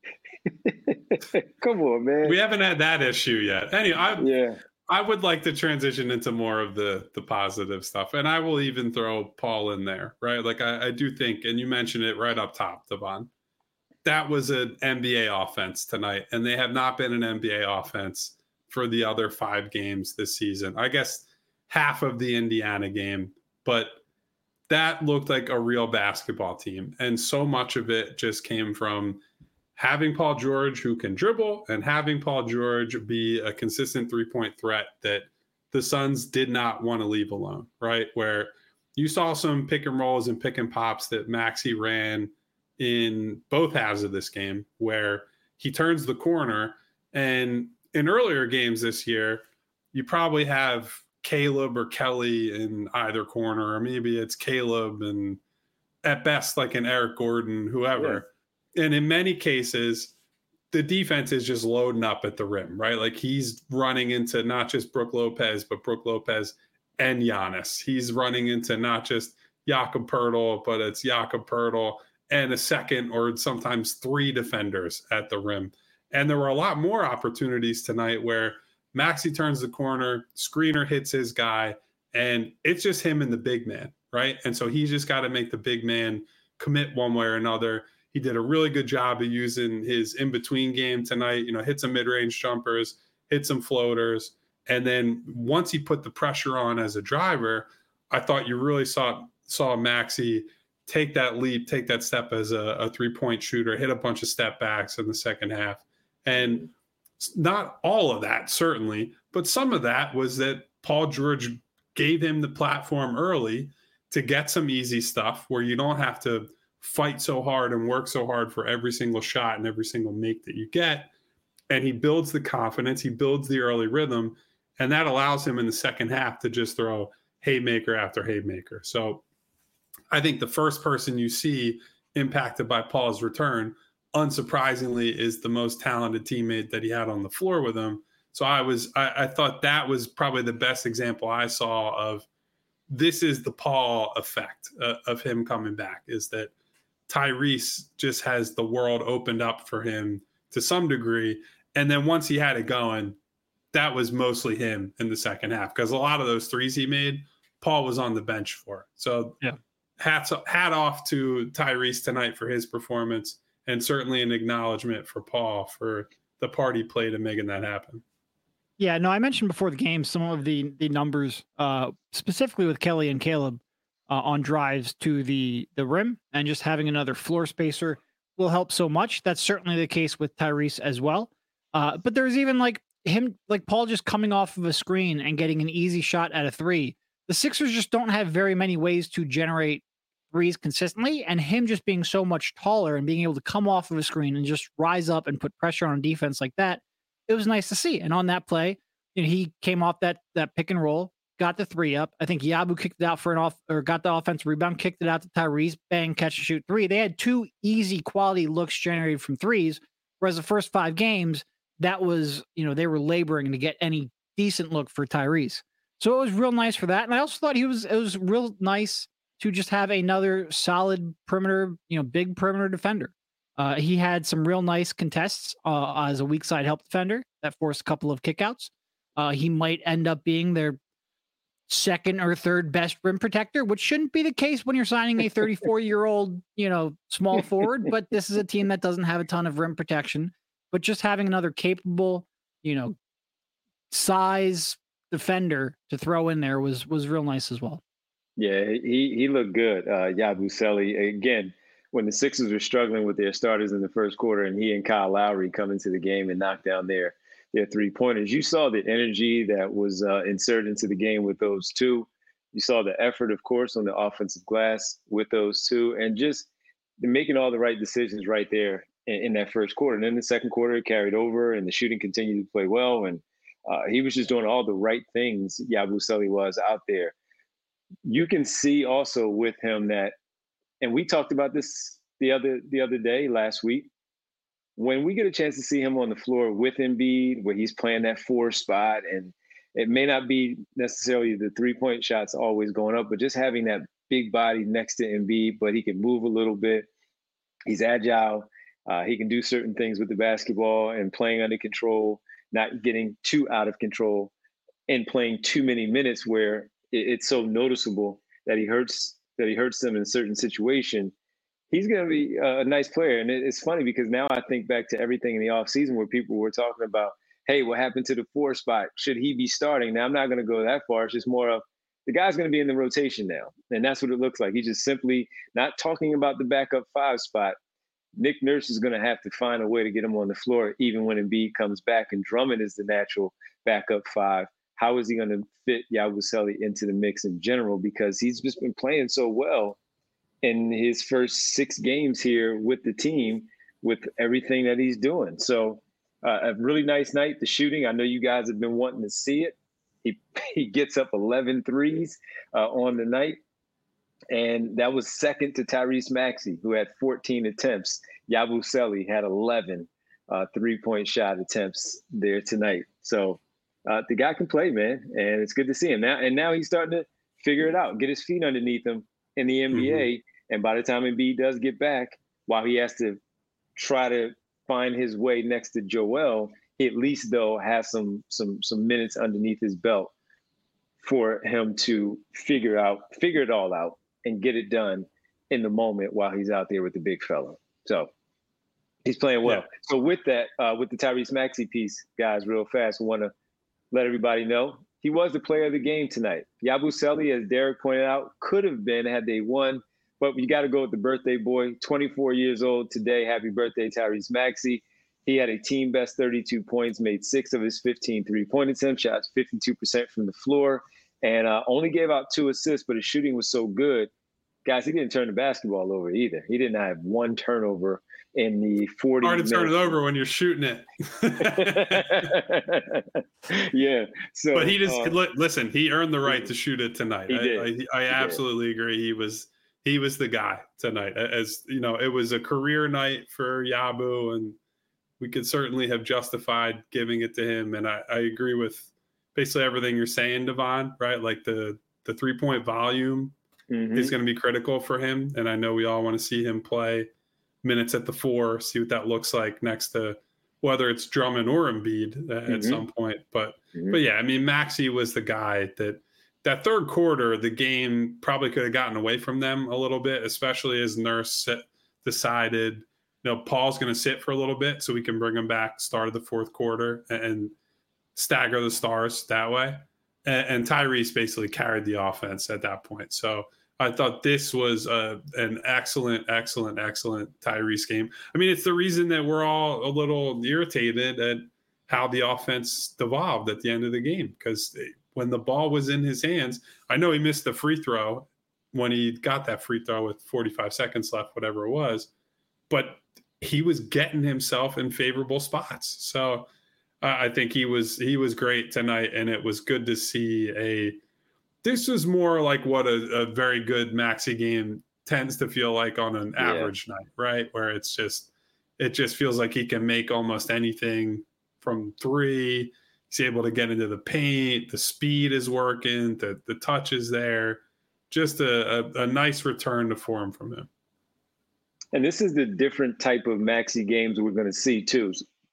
Come on, man. We haven't had that issue yet. Anyway, I would like to transition into more of the positive stuff, and I will even throw Paul in there, right? Like I do think, and you mentioned it right up top, Devon, that was an NBA offense tonight, and they have not been an NBA offense for the other 5 games this season. I guess half of the Indiana game, but that looked like a real basketball team, and so much of it just came from having Paul George, who can dribble, and having Paul George be a consistent three-point threat that the Suns did not want to leave alone, right? Where you saw some pick and rolls and pick and pops that Maxey ran in both halves of this game, where he turns the corner. And in earlier games this year, you probably have Caleb or Kelly in either corner, or maybe it's Caleb and at best like an Eric Gordon, whoever. Yeah. And in many cases, the defense is just loading up at the rim, right? Like he's running into not just Brook Lopez, but Brook Lopez and Giannis. He's running into not just Jakob Poeltl, but it's Jakob Poeltl and a second or sometimes 3 defenders at the rim. And there were a lot more opportunities tonight where Maxey turns the corner, screener hits his guy, and it's just him and the big man, right? And so he's just got to make the big man commit one way or another. He did a really good job of using his in-between game tonight, hit some mid-range jumpers, hit some floaters. And then once he put the pressure on as a driver, I thought you really saw Maxey take that leap, take that step as a three-point shooter, hit a bunch of step backs in the second half. And not all of that, certainly, but some of that was that Paul George gave him the platform early to get some easy stuff where you don't have to fight so hard and work so hard for every single shot and every single make that you get. And he builds the confidence, he builds the early rhythm, and that allows him in the second half to just throw haymaker after haymaker. So I think the first person you see impacted by Paul's return, unsurprisingly, is the most talented teammate that he had on the floor with him. So I thought that was probably the best example I saw of this is the Paul effect of him coming back, is that Tyrese just has the world opened up for him to some degree. And then once he had it going, that was mostly him in the second half, because a lot of those threes he made, Paul was on the bench for. So yeah, hat off to Tyrese tonight for his performance, and certainly an acknowledgement for Paul for the part he played in making that happen. Yeah, no, I mentioned before the game some of the numbers, specifically with Kelly and Caleb on drives to the rim, and just having another floor spacer will help so much. That's certainly the case with Tyrese as well. But there's even like Paul just coming off of a screen and getting an easy shot at a 3. The Sixers just don't have very many ways to generate threes consistently, and him just being so much taller and being able to come off of a screen and just rise up and put pressure on defense like that, it was nice to see. And on that play, he came off that pick and roll, got the 3 up. I think Yabu kicked it out got the offensive rebound, kicked it out to Tyrese, bang, catch and shoot 3. They had 2 easy quality looks generated from threes, whereas the first 5 games, that was, they were laboring to get any decent look for Tyrese. So it was real nice for that. And I also thought it was real nice to just have another solid perimeter, big perimeter defender. He had some real nice contests as a weak side help defender that forced a couple of kickouts. He might end up being their second or third best rim protector, which shouldn't be the case when you're signing a 34-year-old, small forward. But this is a team that doesn't have a ton of rim protection. But just having another capable, size defender to throw in there was real nice as well. Yeah, he looked good. Yabusele, again, when the Sixers were struggling with their starters in the first quarter, and he and Kyle Lowry come into the game and knock down their 3-pointers, you saw the energy that was inserted into the game with those two. You saw the effort, of course, on the offensive glass with those two, and just making all the right decisions right there in that first quarter. And then the second quarter, it carried over, and the shooting continued to play well. And he was just doing all the right things, Yabusele was out there. You can see also with him that, and we talked about this the other day, last week, when we get a chance to see him on the floor with Embiid, where he's playing that 4 spot, and it may not be necessarily the 3-point shots always going up, but just having that big body next to Embiid, but he can move a little bit. He's agile. He can do certain things with the basketball and playing under control, not getting too out of control and playing too many minutes where it's so noticeable that he hurts them in a certain situation. He's going to be a nice player. And it's funny because now I think back to everything in the offseason where people were talking about, hey, what happened to the 4 spot? Should he be starting? Now, I'm not going to go that far. It's just more of the guy's going to be in the rotation now. And that's what it looks like. He's just simply not talking about the backup 5 spot. Nick Nurse is going to have to find a way to get him on the floor, even when Embiid comes back and Drummond is the natural backup 5. How is he going to fit Yabusele into the mix in general? Because he's just been playing so well in his first 6 games here with the team, with everything that he's doing. So a really nice night. The shooting, I know you guys have been wanting to see it. He gets up 11 threes on the night. And that was second to Tyrese Maxey, who had 14 attempts. Yabusele had 11 3-point shot attempts there tonight. So the guy can play, man, and it's good to see him now. And now he's starting to figure it out, get his feet underneath him in the NBA. Mm-hmm. And by the time Embiid does get back, while he has to try to find his way next to Joel, he at least though has some minutes underneath his belt for him to figure it all out and get it done in the moment while he's out there with the big fella. So he's playing well. Yeah. So with that, with the Tyrese Maxey piece, guys, real fast, I want to let everybody know he was the player of the game tonight. Yabusele, as Derek pointed out, could have been had they won, but you got to go with the birthday boy, 24 years old today. Happy birthday, Tyrese Maxey. He had a team best 32 points, made 6 of his 15 3-point attempts, shot 52% from the floor, and only gave out 2 assists, but his shooting was so good. Guys, he didn't turn the basketball over either. He didn't have 1 turnover in the 40 Hard to turn it over when you're shooting it. Yeah. So, but he just listen. He earned the right to shoot it tonight. I absolutely agree. He was the guy tonight. As you know, it was a career night for Yabu, and we could certainly have justified giving it to him. And I agree with basically everything you're saying, Devon. Right, like the 3-point volume is going to be critical for him, and I know we all want to see him play minutes at the 4, see what that looks like next to whether it's Drummond or Embiid at some point. But yeah, I mean, Maxey was the guy that third quarter, the game probably could have gotten away from them a little bit, especially as Nurse decided, Paul's going to sit for a little bit so we can bring him back start of the fourth quarter and stagger the stars that way. And Tyrese basically carried the offense at that point. So I thought this was an excellent Tyrese game. I mean, it's the reason that we're all a little irritated at how the offense devolved at the end of the game, because when the ball was in his hands, I know he missed the free throw when he got that free throw with 45 seconds left, whatever it was, but he was getting himself in favorable spots. So I think he was great tonight, and it was good to see this was more like what a very good Maxey game tends to feel like on an average night, right? Where it just feels like he can make almost anything from 3. He's able to get into the paint. The speed is working. The touch is there. Just a nice return to form from him. And this is the different type of Maxey games we're going to see too.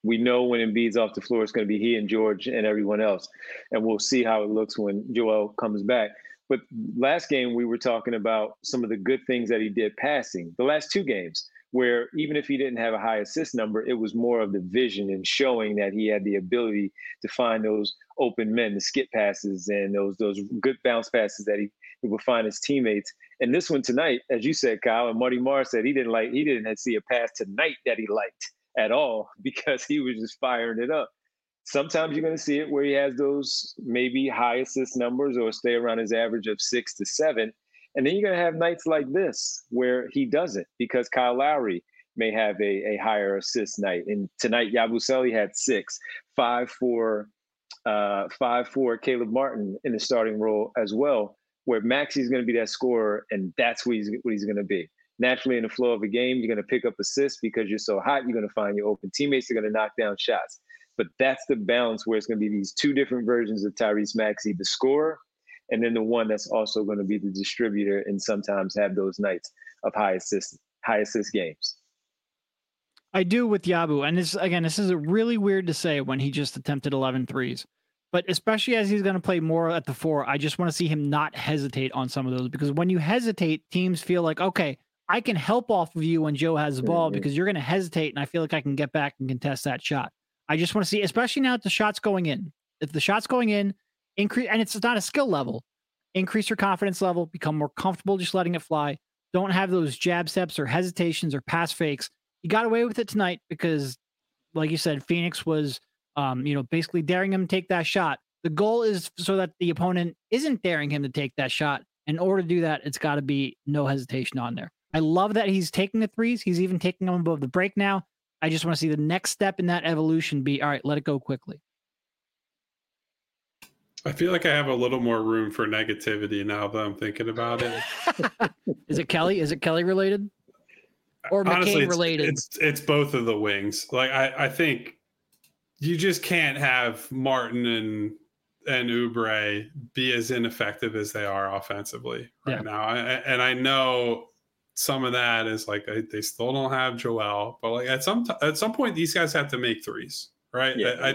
We know when Embiid's off the floor, it's going to be he and George and everyone else. And we'll see how it looks when Joel comes back. But last game, we were talking about some of the good things that he did passing. The last 2 games, where even if he didn't have a high assist number, it was more of the vision and showing that he had the ability to find those open men, the skip passes and those good bounce passes that he would find his teammates. And this one tonight, as you said, Kyle, and Marty Marr said he didn't see a pass tonight that he liked at all because he was just firing it up. Sometimes you're going to see it where he has those maybe high assist numbers or stay around his average of 6 to 7. And then you're going to have nights like this where he doesn't because Kyle Lowry may have a higher assist night. And tonight, Yabusele had 6, 5 for Caleb Martin in the starting role as well, where Maxi's going to be that scorer, and that's what he's going to be. Naturally, in the flow of a game, you're going to pick up assists because you're so hot. You're going to find your open teammates. They're going to knock down shots. But that's the balance where it's going to be these 2 different versions of Tyrese Maxey, the scorer, and then the one that's also going to be the distributor and sometimes have those nights of high assist games. I do with Yabu. And this is really weird to say when he just attempted 11 threes. But especially as he's going to play more at the 4, I just want to see him not hesitate on some of those. Because when you hesitate, teams feel like, okay, I can help off of you when Joe has the ball because you're going to hesitate, and I feel like I can get back and contest that shot. I just want to see, especially now that the shot's going in. If the shot's going in, increase, and it's not a skill level, increase your confidence level, become more comfortable just letting it fly. Don't have those jab steps or hesitations or pass fakes. You got away with it tonight because, like you said, Phoenix was, basically daring him to take that shot. The goal is so that the opponent isn't daring him to take that shot. In order to do that, it's got to be no hesitation on there. I love that he's taking the threes. He's even taking them above the break now. I just want to see the next step in that evolution be, all right, let it go quickly. I feel like I have a little more room for negativity now that I'm thinking about it. Is it Kelly? Is it Kelly related? Or McCain related? It's both of the wings. Like I think you just can't have Martin and Oubre be as ineffective as they are offensively right now. I know some of that is like they still don't have Joel, but like at some point these guys have to make threes, right? Yeah.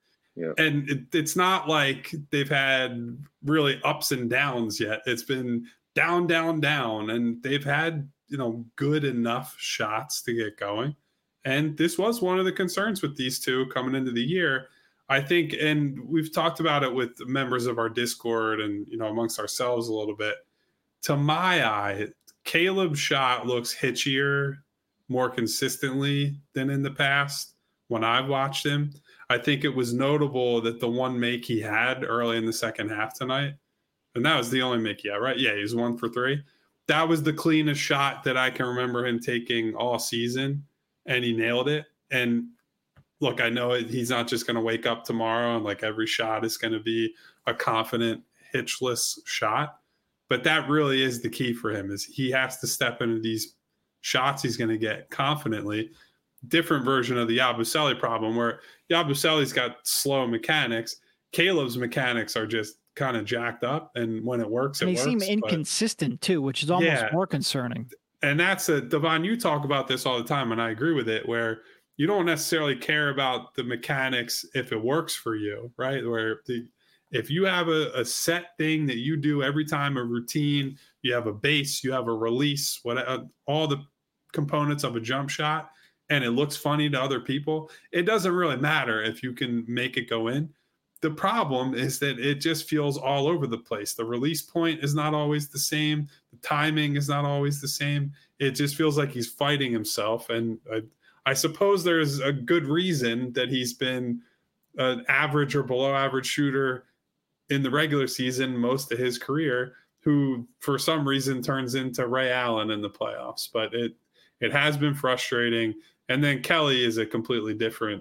And it's not like they've had really ups and downs yet. It's been down, and they've had good enough shots to get going. And this was one of the concerns with these two coming into the year, I think. And we've talked about it with members of our Discord and amongst ourselves a little bit. To my eye, Caleb's shot looks hitchier more consistently than in the past when I've watched him. I think it was notable that the one make he had early in the second half tonight, and that was the only make he had, right? Yeah, he was 1 for 3. That was the cleanest shot that I can remember him taking all season, and he nailed it. And look, I know he's not just going to wake up tomorrow and like every shot is going to be a confident, hitchless shot. But that really is the key for him, is he has to step into these shots he's going to get confidently. Different version of the Yabusele problem where Yabusele's got slow mechanics. Caleb's mechanics are just kind of jacked up, and when it works, and they seem inconsistent too, which is almost more concerning. And that's Devon, you talk about this all the time, and I agree with it, where you don't necessarily care about the mechanics if it works for you, right? Where if you have a set thing that you do every time, a routine, you have a base, you have a release, all the components of a jump shot, and it looks funny to other people, it doesn't really matter if you can make it go in. The problem is that it just feels all over the place. The release point is not always the same. The timing is not always the same. It just feels like he's fighting himself. And I suppose there's a good reason that he's been an average or below average shooter in the regular season most of his career, who for some reason turns into Ray Allen in the playoffs. But it has been frustrating. And then Kelly is a completely different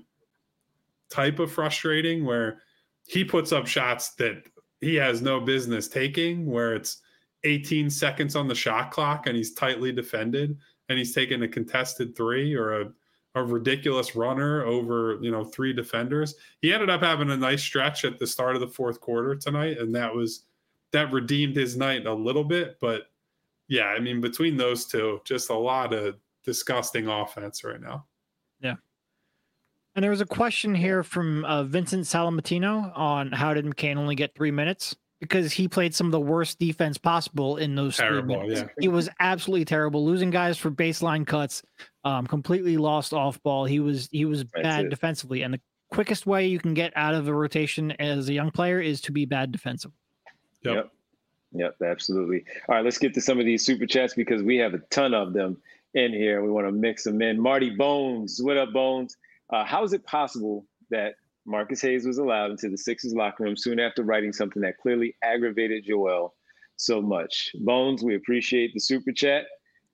type of frustrating, where he puts up shots that he has no business taking, where it's 18 seconds on the shot clock and he's tightly defended and he's taking a contested 3 or a ridiculous runner over 3 defenders. He ended up having a nice stretch at the start of the fourth quarter tonight, and that redeemed his night a little bit. But yeah, I mean, between those two, just a lot of disgusting offense right now. Yeah. And there was a question here from Vincent Salamatino on how did McCain only get 3 minutes? Because he played some of the worst defense possible in those 3 minutes. Yeah. He was absolutely terrible, losing guys for baseline cuts, completely lost off ball. He was bad defensively. And the quickest way you can get out of a rotation as a young player is to be bad defensively. Yep, absolutely. All right, let's get to some of these super chats because we have a ton of them in here. We want to mix them in. Marty Bones, what up, Bones? How is it possible that Marcus Hayes was allowed into the Sixers locker room soon after writing something that clearly aggravated Joel so much? Bones, we appreciate the super chat.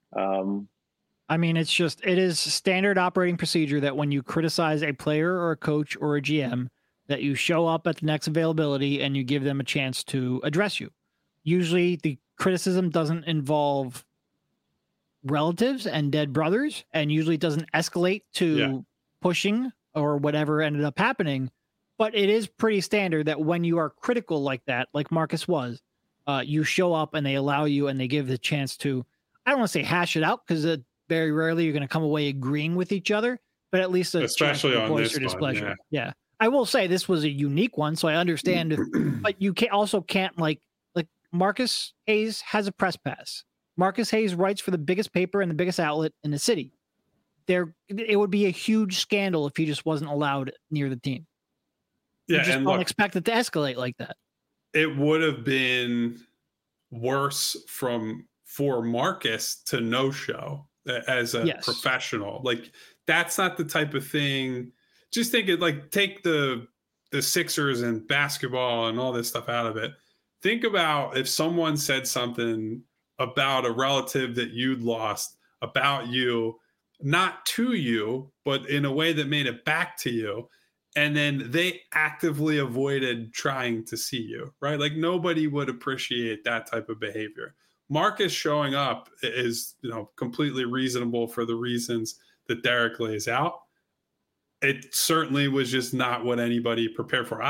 I mean, it is standard operating procedure that when you criticize a player or a coach or a GM, that you show up at the next availability and you give them a chance to address you. Usually the criticism doesn't involve relatives and dead brothers, and usually it doesn't escalate to pushing or whatever ended up happening. But it is pretty standard that when you are critical like that, like Marcus was, you show up and they allow you and they give the chance to, I don't want to say hash it out because very rarely you're going to come away agreeing with each other, but at least especially on this displeasure. One, yeah. I will say this was a unique one, so I understand, but you can't like Marcus Hayes has a press pass. Marcus Hayes writes for the biggest paper and the biggest outlet in the city. It would be a huge scandal if he just wasn't allowed near the team. Yeah, you just don't expect it to escalate like that. It would have been worse for Marcus to no-show as a professional. Like, that's not the type of thing. Just think it, like, take the Sixers and basketball and all this stuff out of it. Think about if someone said something about a relative that you'd lost about you, not to you, but in a way that made it back to you. And then they actively avoided trying to see you, right? Like, nobody would appreciate that type of behavior. Marcus showing up is, completely reasonable for the reasons that Derek lays out. It certainly was just not what anybody prepared for.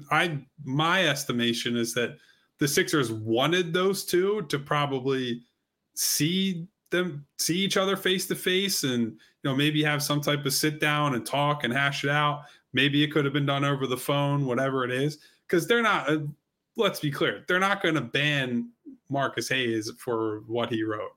My estimation is that the Sixers wanted those two to probably see each other face to face and, maybe have some type of sit down and talk and hash it out. Maybe it could have been done over the phone, whatever it is, because they're not, let's be clear, they're not going to ban Marcus Hayes for what he wrote.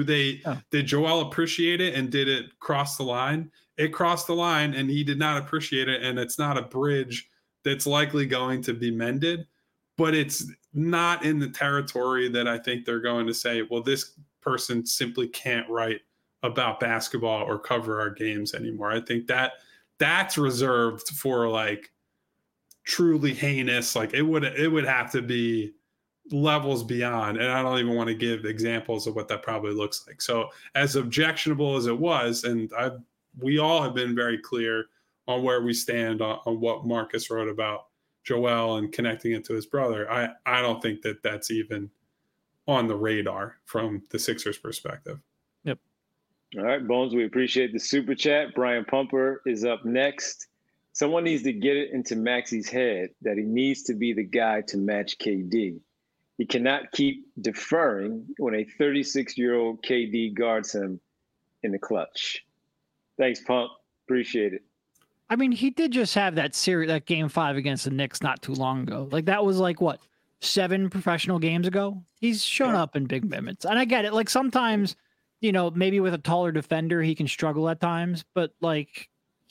Did Joel appreciate it and did it cross the line? It crossed the line and he did not appreciate it. And it's not a bridge that's likely going to be mended, but it's not in the territory that I think they're going to say, well, this person simply can't write about basketball or cover our games anymore. I think that's reserved for like truly heinous, like it would have to be levels beyond. And I don't even want to give examples of what that probably looks like. So as objectionable as it was, and we all have been very clear on where we stand on what Marcus wrote about Joel and connecting it to his brother. I don't think that that's even on the radar from the Sixers perspective. Yep. All right, Bones, we appreciate the super chat. Brian Pumper is up next. Someone needs to get it into Maxey's head that he needs to be the guy to match KD. He cannot keep deferring when a 36-year-old KD guards him in the clutch. Thanks, Pump. Appreciate it. I mean, he did just have that game 5 against the Knicks not too long ago. Like, that was like, what, 7 professional games ago? He's shown up in big minutes. And I get it. Like, sometimes, maybe with a taller defender, he can struggle at times. But, like,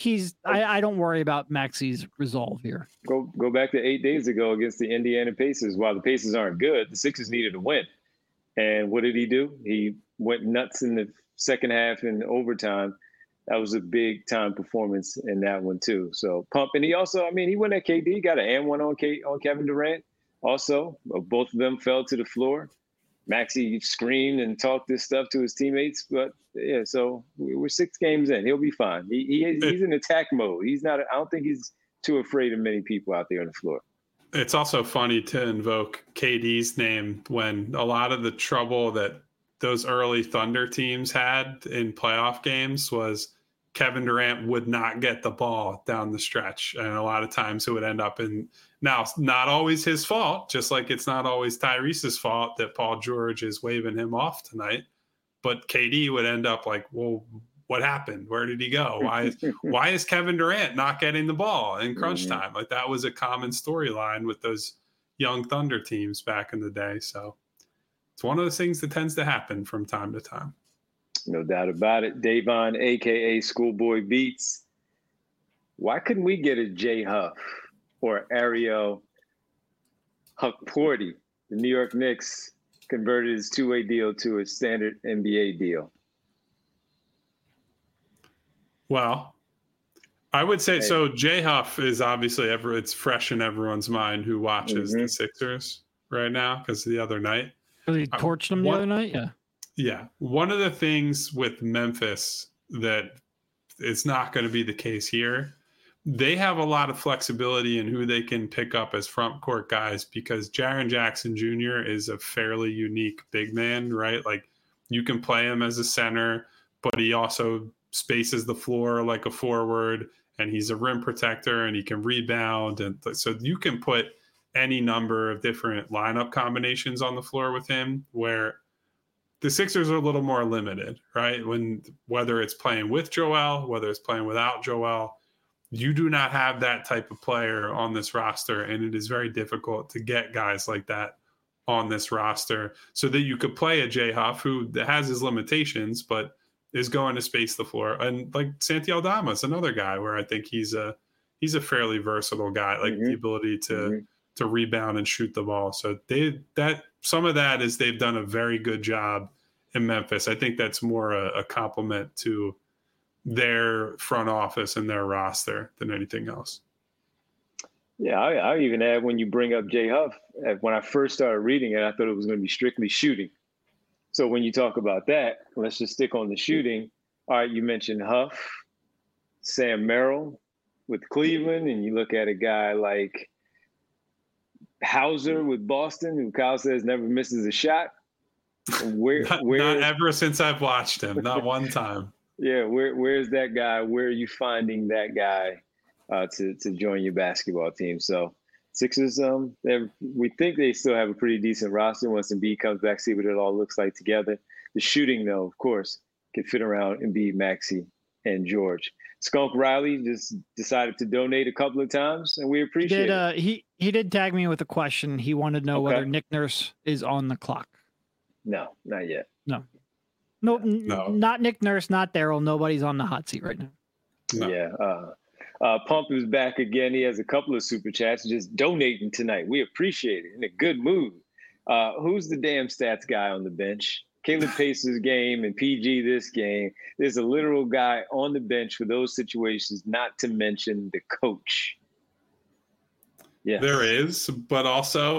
I don't worry about Maxey's resolve here. Go back to 8 days ago against the Indiana Pacers. While the Pacers aren't good, the Sixers needed to win. And what did he do? He went nuts in the second half in overtime. That was a big time performance in that one too. So Pump, and he also, he went at KD, got an and one on Kevin Durant. Also, both of them fell to the floor. Maxey screamed and talked this stuff to his teammates, but yeah. So we're 6 games in. He'll be fine. He's in attack mode. He's not. I don't think he's too afraid of many people out there on the floor. It's also funny to invoke KD's name when a lot of the trouble that those early Thunder teams had in playoff games was Kevin Durant would not get the ball down the stretch. And a lot of times it would end up in, now, not always his fault, just like it's not always Tyrese's fault that Paul George is waving him off tonight. But KD would end up like, well, what happened? Where did he go? Why is Kevin Durant not getting the ball in crunch time? Like that was a common storyline with those young Thunder teams back in the day. So it's one of those things that tends to happen from time to time. No doubt about it. Davon, a.k.a. Schoolboy Beats. Why couldn't we get a Jay Huff or Ariel Hukporti? The New York Knicks converted his two-way deal to a standard NBA deal. Well, I would say so. Jay Huff is obviously it's fresh in everyone's mind who watches the Sixers right now because the other night. He torched them the other night? Yeah. Yeah. One of the things with Memphis that is not going to be the case here, they have a lot of flexibility in who they can pick up as front court guys because Jaren Jackson Jr. is a fairly unique big man, right? Like you can play him as a center, but he also spaces the floor like a forward, and he's a rim protector and he can rebound. And so you can put any number of different lineup combinations on the floor with him, where the Sixers are a little more limited, right? Whether it's playing with Joel, whether it's playing without Joel, you do not have that type of player on this roster. And it is very difficult to get guys like that on this roster so that you could play a Jay Huff who has his limitations, but is going to space the floor. And like Santi Aldama is another guy where I think he's a fairly versatile guy, like the ability to rebound and shoot the ball. So some of that is they've done a very good job in Memphis. I think that's more a compliment to their front office and their roster than anything else. Yeah, I even add when you bring up Jay Huff, when I first started reading it, I thought it was going to be strictly shooting. So when you talk about that, let's just stick on the shooting. All right, you mentioned Huff, Sam Merrill with Cleveland, and you look at a guy like Hauser with Boston, who Kyle says never misses a shot. Not ever since I've watched him, not one time. Yeah, where's that guy? Where are you finding that guy to join your basketball team? So Sixers, we think they still have a pretty decent roster once Embiid comes back, see what it all looks like together. The shooting, though, of course, can fit around Embiid, Maxey, and George. Skunk Riley just decided to donate a couple of times, and we appreciate it. He did tag me with a question. He wanted to know whether Nick Nurse is on the clock. No, not yet. No, not Nick Nurse, not Daryl. Nobody's on the hot seat right now. No. Yeah. Pump is back again. He has a couple of super chats just donating tonight. We appreciate it. In a good mood. Who's the damn stats guy on the bench? Caleb Pace's game and PG this game. There's a literal guy on the bench for those situations, not to mention the coach. Yeah, there is, but also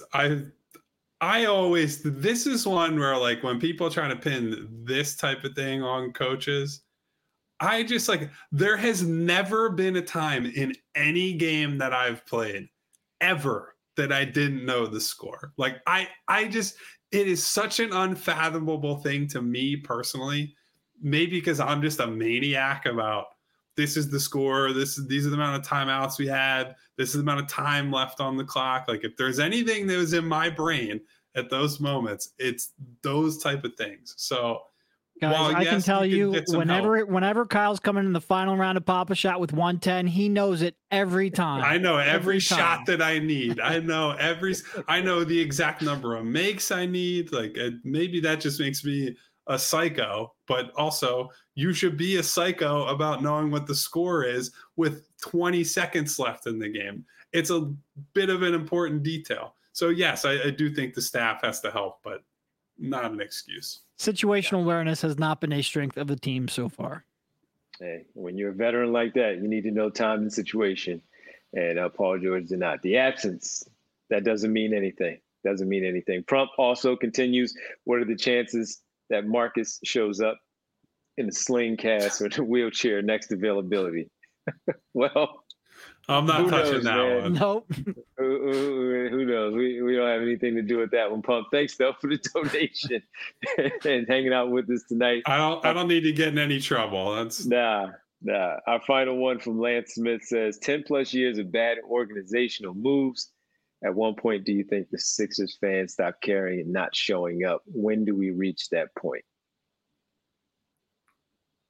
I always, this is one where like when people try to pin this type of thing on coaches, I just like, there has never been a time in any game that I've played ever that I didn't know the score. Like I just, it is such an unfathomable thing to me personally, maybe because I'm just a maniac about this is the score. These are the amount of timeouts we had. This is the amount of time left on the clock. Like if there's anything that was in my brain at those moments, it's those type of things. So guys, I can tell you whenever Kyle's coming in the final round of Pop-A-Shot with 110, he knows it every time. I know every shot that I need. I know the exact number of makes I need. Like maybe that just makes me a psycho, but also you should be a psycho about knowing what the score is with 20 seconds left in the game. It's a bit of an important detail. So yes, I do think the staff has to help, but not an excuse. Situational awareness has not been a strength of the team so far. Hey, when you're a veteran like that, you need to know time and situation. And Paul George did not. The absence, that doesn't mean anything. Doesn't mean anything. Prump also continues. What are the chances that Marcus shows up in a sling cast or the wheelchair next availability? Well, I'm not touching that one. Nope. Who knows? We don't have anything to do with that one. Pump. Thanks though for the donation and hanging out with us tonight. I don't need to get in any trouble. That's nah. Our final one from Lance Smith says 10 plus years of bad organizational moves. At one point, do you think the Sixers fans stop caring and not showing up? When do we reach that point?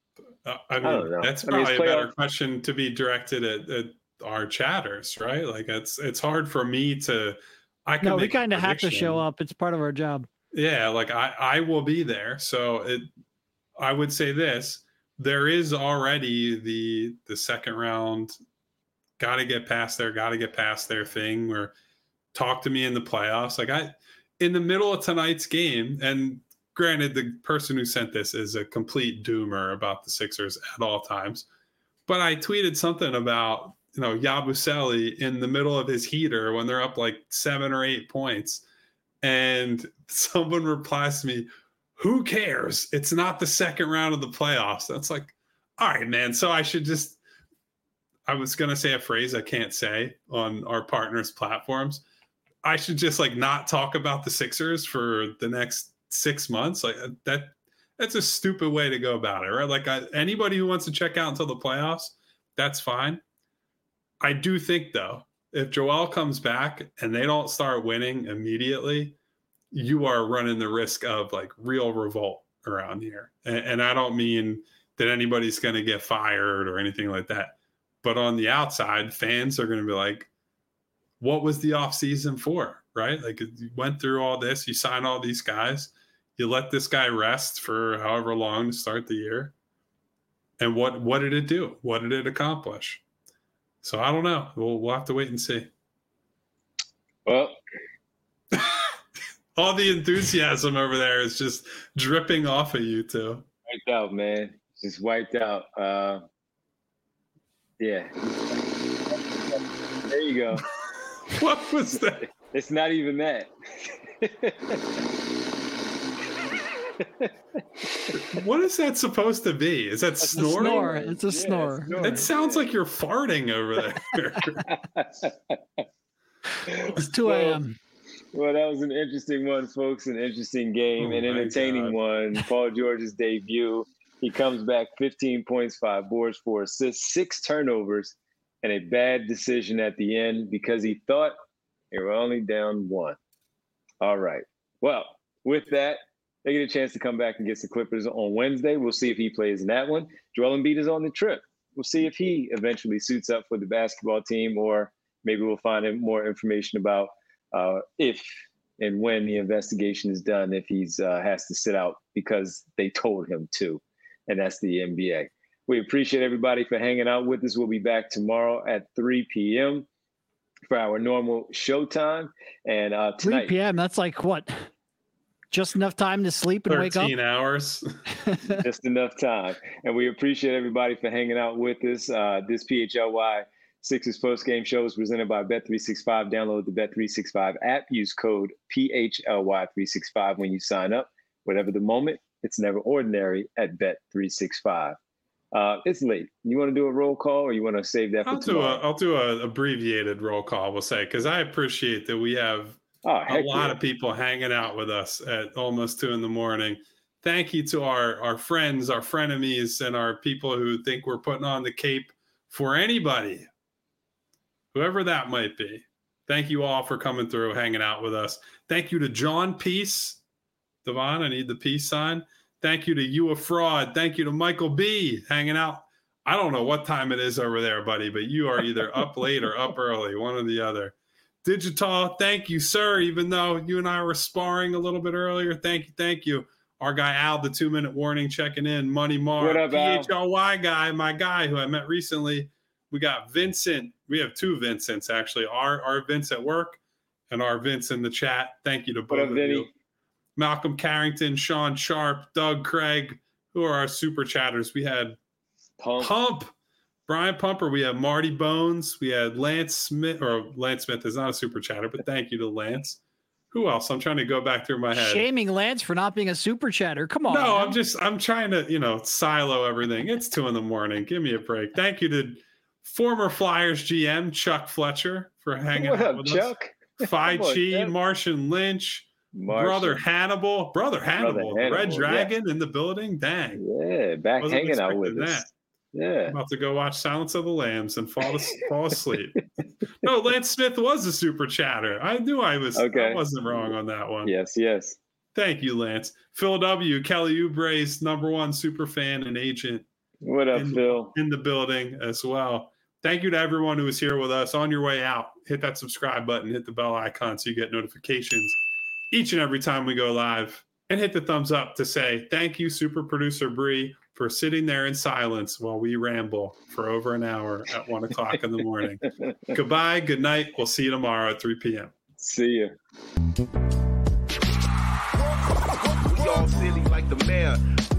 I don't know. that's I mean, it's probably a better playoff. question to be directed at our chatters, right? Like it's hard for me to. I can No, we make a kind of have to show prediction. up. It's part of our job. Yeah, like I will be there. So I would say this: there is already the second round. Got to get past their thing. Or talk to me in the playoffs. Like in the middle of tonight's game, and granted, the person who sent this is a complete doomer about the Sixers at all times. But I tweeted something about, Yabusele in the middle of his heater when they're up like 7 or 8 points. And someone replies to me, who cares? It's not the second round of the playoffs. That's like, all right, man. So I was going to say a phrase I can't say on our partners' platforms. I should just like not talk about the Sixers for the next 6 months. Like that's a stupid way to go about it, right? Like anybody who wants to check out until the playoffs, that's fine. I do think though, if Joel comes back and they don't start winning immediately, you are running the risk of like real revolt around here. And I don't mean that anybody's going to get fired or anything like that. But on the outside, fans are going to be like, what was the offseason for, right? Like you went through all this, you signed all these guys, you let this guy rest for however long to start the year. And what did it do? What did it accomplish? So I don't know. We'll have to wait and see. Well, all the enthusiasm over there is just dripping off of you two. wiped out, man. Just wiped out. Yeah. There you go. What was that? It's not even that. What is that supposed to be? Is that snoring? Snore. It's a snore. It sounds like you're farting over there. It's 2 a.m. Well, that was an interesting one, folks. An interesting game, an entertaining one. Paul George's debut. He comes back 15 points, 5 boards, 4 assists, 6 turnovers, and a bad decision at the end because he thought they were only down 1. All right. Well, with that, they get a chance to come back and get the Clippers on Wednesday. We'll see if he plays in that one. Joel Embiid is on the trip. We'll see if he eventually suits up for the basketball team, or maybe we'll find more information about if and when the investigation is done, if he's has to sit out because they told him to, and that's the NBA. We appreciate everybody for hanging out with us. We'll be back tomorrow at 3 p.m. for our normal showtime. And tonight, 3 p.m., that's like what? Just enough time to sleep and wake up? 13 hours. Just enough time. And we appreciate everybody for hanging out with us. This PHLY Sixers post-game show is presented by Bet365. Download the Bet365 app. Use code PHLY365 when you sign up. Whatever the moment, it's never ordinary at Bet365. It's late. You want to do a roll call, or you want to save that for tomorrow? I'll do an abbreviated roll call, we'll say, because I appreciate that we have a lot of people hanging out with us at almost 2 a.m. Thank you to our friends, our frenemies, and our people who think we're putting on the cape for anybody, whoever that might be. Thank you all for coming through, hanging out with us. Thank you to John Peace. Devon, I need the peace sign. Thank you to You a Fraud. Thank you to Michael B. hanging out. I don't know what time it is over there, buddy, but you are either up late or up early, one or the other. Digital, thank you, sir. Even though you and I were sparring a little bit earlier, thank you. Our guy Al, the 2-minute warning, checking in. Money Mar, what up, PHLY guy, my guy who I met recently. We got Vincent. We have 2 Vincents, actually. Our Vince at work and our Vince in the chat. Thank you to both of you. Malcolm Carrington, Sean Sharp, Doug Craig, who are our super chatters. We had Pump, Brian Pumper. We had Marty Bones. We had Lance Smith, or Lance Smith is not a super chatter, but thank you to Lance. Who else? I'm trying to go back through my head. Shaming Lance for not being a super chatter. Come on. No, man. I'm trying to, silo everything. It's 2 a.m. Give me a break. Thank you to former Flyers GM Chuck Fletcher for hanging out with Chuck? us. Phi Chi, Martian Lynch. Brother Hannibal, Red Dragon in the building. Dang. Yeah, back hanging out with us. Yeah. I'm about to go watch Silence of the Lambs and fall asleep. No, Lance Smith was a super chatter. I knew I wasn't wrong on that one. Yes. Thank you, Lance. Phil W., Kelly Oubre's #1 super fan and agent. What up, Phil? In the building as well. Thank you to everyone who was here with us. On your way out, hit that subscribe button, hit the bell icon so you get notifications each and every time we go live, and hit the thumbs up to say thank you, super producer Bree, for sitting there in silence while we ramble for over an hour at 1 o'clock in the morning. Goodbye, good night. We'll see you tomorrow at 3 p.m. See ya. We all silly like the mayor.